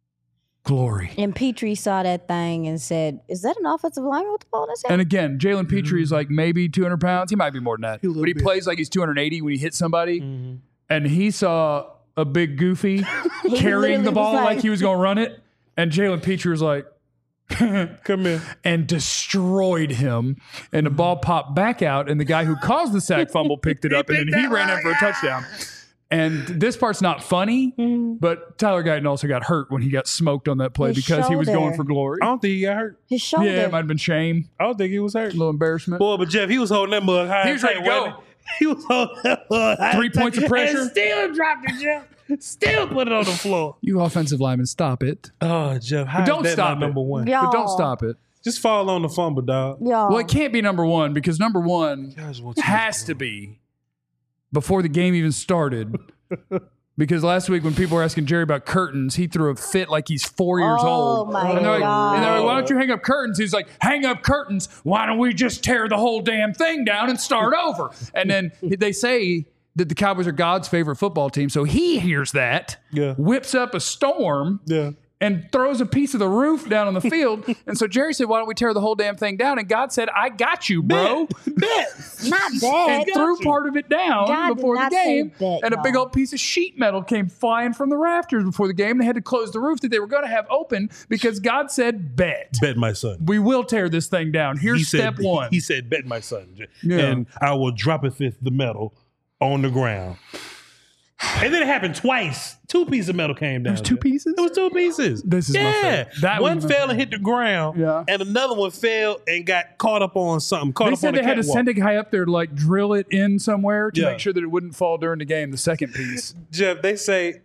glory. And Petrie saw that thing and said, is that an offensive lineman with the ball in his hand? And again, Jalen Petrie is like maybe 200 pounds. He might be more than that. But he plays like he's 280 when he hits somebody. And he saw a big goofy carrying the ball like he was going to run it. And Jalen Petrie was like, come here. And destroyed him. And the ball popped back out, and the guy who caused the sack fumble picked it up, and then he ran in for a touchdown. And this part's not funny, but Tyler Guyton also got hurt when he got smoked on that play because he was going for glory. I don't think he got hurt. His shoulder. Yeah, it might have been shame. I don't think he was hurt. A little embarrassment. Boy, but Jeff, he was holding that mug high. He was ready to go. He was holding that mug high. 3 points of pressure. And still dropped it, Jeff. Still put it on the floor. You offensive linemen, stop it. Oh, Jeff, how But don't is that stop not it. number one? Y'all. But don't stop it. Just fall on the fumble, dog. Y'all. Well, it can't be number one because number one Guys want to- has to be before the game even started. Because last week when people were asking Jerry about curtains, he threw a fit like he's 4 years old. Oh, my And they're God. like, why don't you hang up curtains? He's like, hang up curtains. Why don't we just tear the whole damn thing down and start over? And then they say that the Cowboys are God's favorite football team. So he hears that, whips up a storm, and throws a piece of the roof down on the field. And so Jerry said, why don't we tear the whole damn thing down? And God said, I got you, bro. Not bad. And threw part of it down God before did the not say game. bet, And a big y'all. old piece of sheet metal came flying from the rafters before the game. They had to close the roof that they were going to have open because God said, bet. Bet my son. We will tear this thing down. Here's step one. He said, bet my son. Yeah. And I will drop the metal on the ground. And then it happened twice. 2 pieces of metal came down. There's 2 pieces? It was 2 pieces. This is my favorite. That one was my fell and hit the ground. Yeah. And another one fell and got caught up on something. They said they had to send a guy up there to like drill it in somewhere to Yeah. make sure that it wouldn't fall during the game, the second piece. Jeff, they said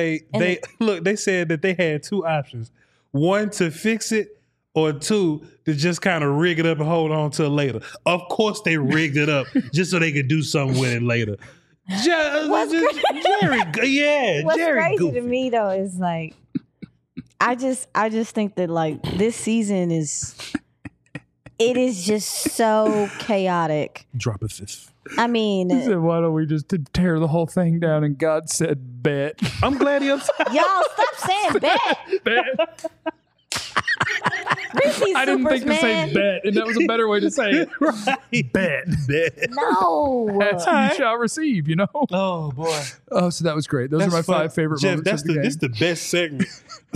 that they had 2 options. 1 to fix it, or 2 to just kind of rig it up and hold on to it later. Of course they rigged it up just so they could do something with it later. Jerry, What's Jerry crazy goofy. to me though is like, I just think that like this season is just so chaotic. Drop a fifth. I mean, He said, why don't we just tear the whole thing down? And God said, bet. I'm glad he upset. y'all stop saying bet. Bet. Reese's I didn't think to Supers, say man. bet, and that was a better way to say it. Right. Bet. No. That's what you shall receive, you know? Oh boy. Oh, so that was great. Those are my 5 favorite Jeff, moments of the game. this the best segment.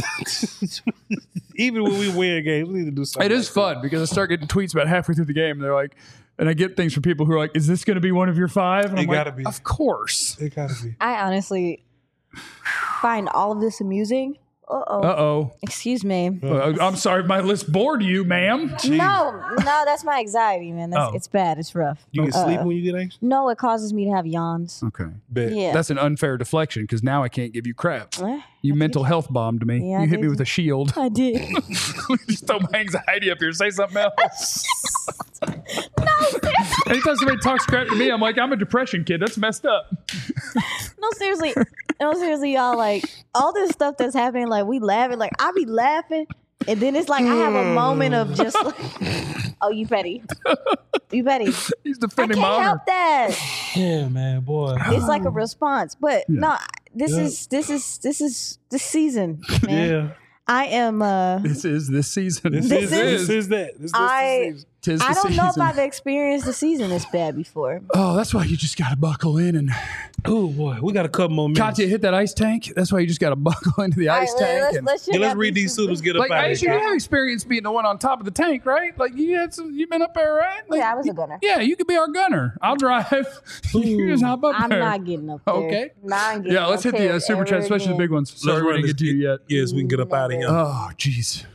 Even when we win games, we need to do something. It is fun because I start getting tweets about halfway through the game. And they're like, and I get things from people who are like, is this going to be one of your 5? And It I'm gotta like, be. Of course. It gotta be. I honestly find all of this amusing. Uh-oh. Excuse me. I'm sorry if my list bored you, ma'am. No, that's my anxiety, man. Oh. It's bad. It's rough. You get sleep when you get anxious? No, it causes me to have yawns. Okay. Bet. Yeah. That's an unfair deflection because now I can't give you crap. Eh, You mental health bombed me. Yeah, I you hit me did. with a shield. I did. Just throw my anxiety up here. Say something else. No, seriously. Anytime somebody talks crap to me, I'm like, I'm a depression kid. That's messed up. No, seriously. No, seriously, y'all. Like all this stuff that's happening, like we laughing. Like I be laughing, and then it's like I have a moment of just like, oh, you petty. You petty. He's I defending can't my honor. help that. Yeah, man, boy. It's like a response, but no. This is this season, man. Yeah. I am. This is this season. This This is that. This I- is Tis the I don't know if season. I've experienced a season this bad before. Oh, that's why you just got to buckle in and Oh boy, we got a couple more minutes. Katya hit that ice tank. That's why you just got to buckle into the ice All right, tank. and- let's check Yeah, let's out read these suitors. Get up like out of Aisha, here. you have experience being the one on top of the tank, right? Like you've been up there, right? Like, Yeah, I was a gunner. Yeah, you could be our gunner. I'll drive. You just hop up I'm there. not getting up there. Okay. Not getting Yeah, let's up hit the there super chat, ever especially the again. big ones. Sorry, Let's we run didn't this. get to you yet. Yes, we can get up out of here. Oh, jeez.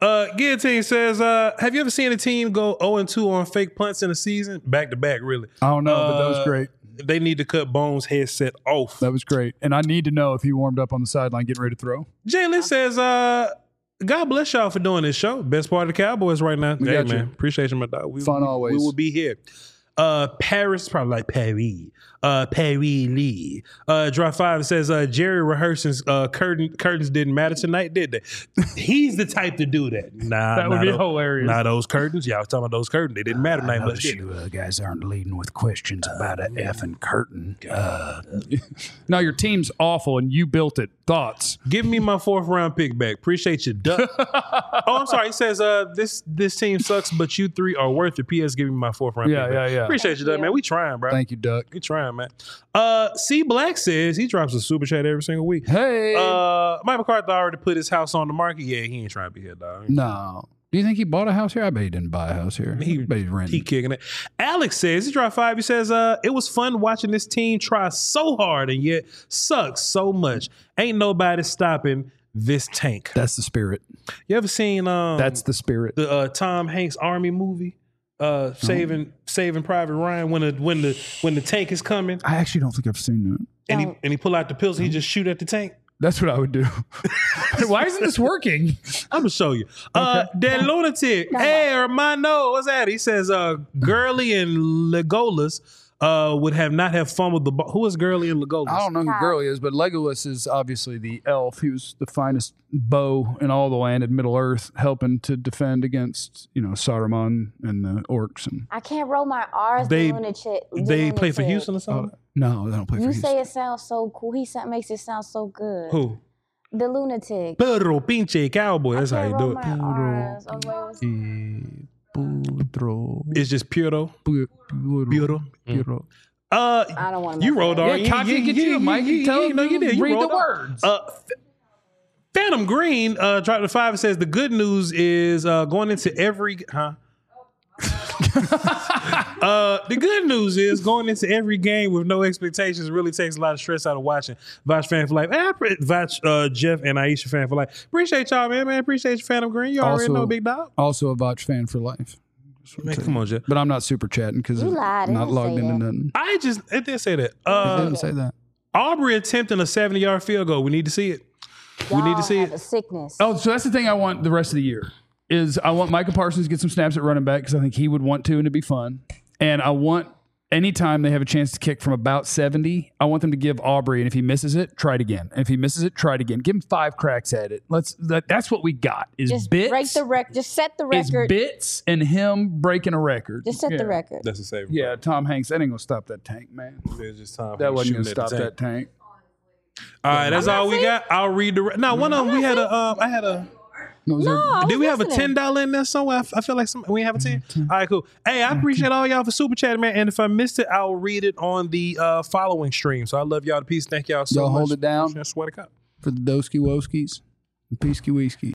Guillotine says, have you ever seen a team go 0-2 on fake punts in a season? Back to back, really. I don't know, but that was great. They need to cut Bones' headset off. That was great. And I need to know if he warmed up on the sideline getting ready to throw. Jalen says, God bless y'all for doing this show. Best part of the Cowboys right now. We Hey, got you. man. Appreciate you, my dog. Fun always. We will be here. Paris, probably like Paris. Paris Lee. Drop 5 says, Jerry rehearsing's curtains didn't matter tonight, did they? He's the type to do that. Nah, That would be hilarious. Nah, those curtains. Y'all talking about those curtains. They didn't matter tonight much, did they? Guys aren't leading with questions about an effing curtain. No, your team's awful and you built it. Thoughts? Give me my 4th round pick back. Appreciate you, Duck. Oh, I'm sorry. He says, this team sucks, but you 3 are worth it. P.S. Give me my 4th round pick back. Yeah. Appreciate you, Duck, man. We trying, bro. Thank you, Duck. We trying, man. C Black says he drops a super chat every single week. Hey. Mike McCarthy already put his house on the market. Yeah, he ain't trying to be here, dog. No. Do you think he bought a house here? I bet he didn't buy a house here. I bet he's renting. He kicking it. Alex says he dropped 5. He says it was fun watching this team try so hard and yet sucks so much. Ain't nobody stopping this tank. That's the spirit. You ever seen That's the spirit. the Tom Hanks Army movie? Saving Private Ryan when the tank is coming I actually don't think I've seen that. and he pull out the pistol, he just shoot at the tank. That's what I would do. Why isn't this working? I'm gonna show you. That lunatic. Hey, Hermano, what's that? He says, Gurley and Legolas would not have fumbled the ball. Who is Gurley and Legolas? I don't know who Gurley is, but Legolas is obviously the elf. He was the finest bow in all the land in Middle Earth, helping to defend against, Saruman and the orcs. And I can't roll my R's. They lunatic. they play for Houston or something? no, they don't play for You Houston. say it sounds so cool. Makes it sound so good. Who? The lunatic. Pedro Pinche Cowboy. That's how Can't you roll do it. my R's. Oh, wait, It's just Puro. Puro. Puro. I don't want to. You rolled on. Yeah, Katya, get you, Mike. Tell him no, you did. You read the rolled on. words. Phantom Green dropped the 5 and says the good news is going into every the good news is going into every game with no expectations really takes a lot of stress out of watching. Vouch fan for life. Vouch Jeff and Aisha fan for life. Appreciate y'all, man. Appreciate you, Phantom Green. You already know, big dog. Also a Vouch fan for life. Man, come on, Jeff. But I'm not super chatting because You I'm lied. It not didn't logged say into that. nothing. It did say that. I didn't say that. Aubrey attempting a 70-yard field goal. We need to see it. We need to see have it. a sickness. Oh, so that's the thing I want the rest of the year is I want Micah Parsons to get some snaps at running back because I think he would want to and it'd be fun. And I want anytime they have a chance to kick from about 70, I want them to give Aubrey, and if he misses it, try it again. And if he misses it, try it again. Give him 5 cracks at it. That's what we got is Just bits. break the record. Just set the Is record. bits and him breaking a record. Just set Yeah. the record. That's a saver. Yeah, Tom Hanks. That ain't gonna stop that tank, man. It's just time That for wasn't gonna shooting at stop the that tank. tank. All right, that's all we got. I'll read the. Now, one of them we had a. I had a. No, is there- I Did was we have a listening. $10 in there somewhere? I feel like we have a 10. All right, cool. Hey, I appreciate all y'all for super chatting, man. And if I missed it, I'll read it on the following stream. So I love y'all to peace. Thank y'all so Y'all much. hold it down. I swear to God. for the Doski Woskies and Peasky Wheeskies.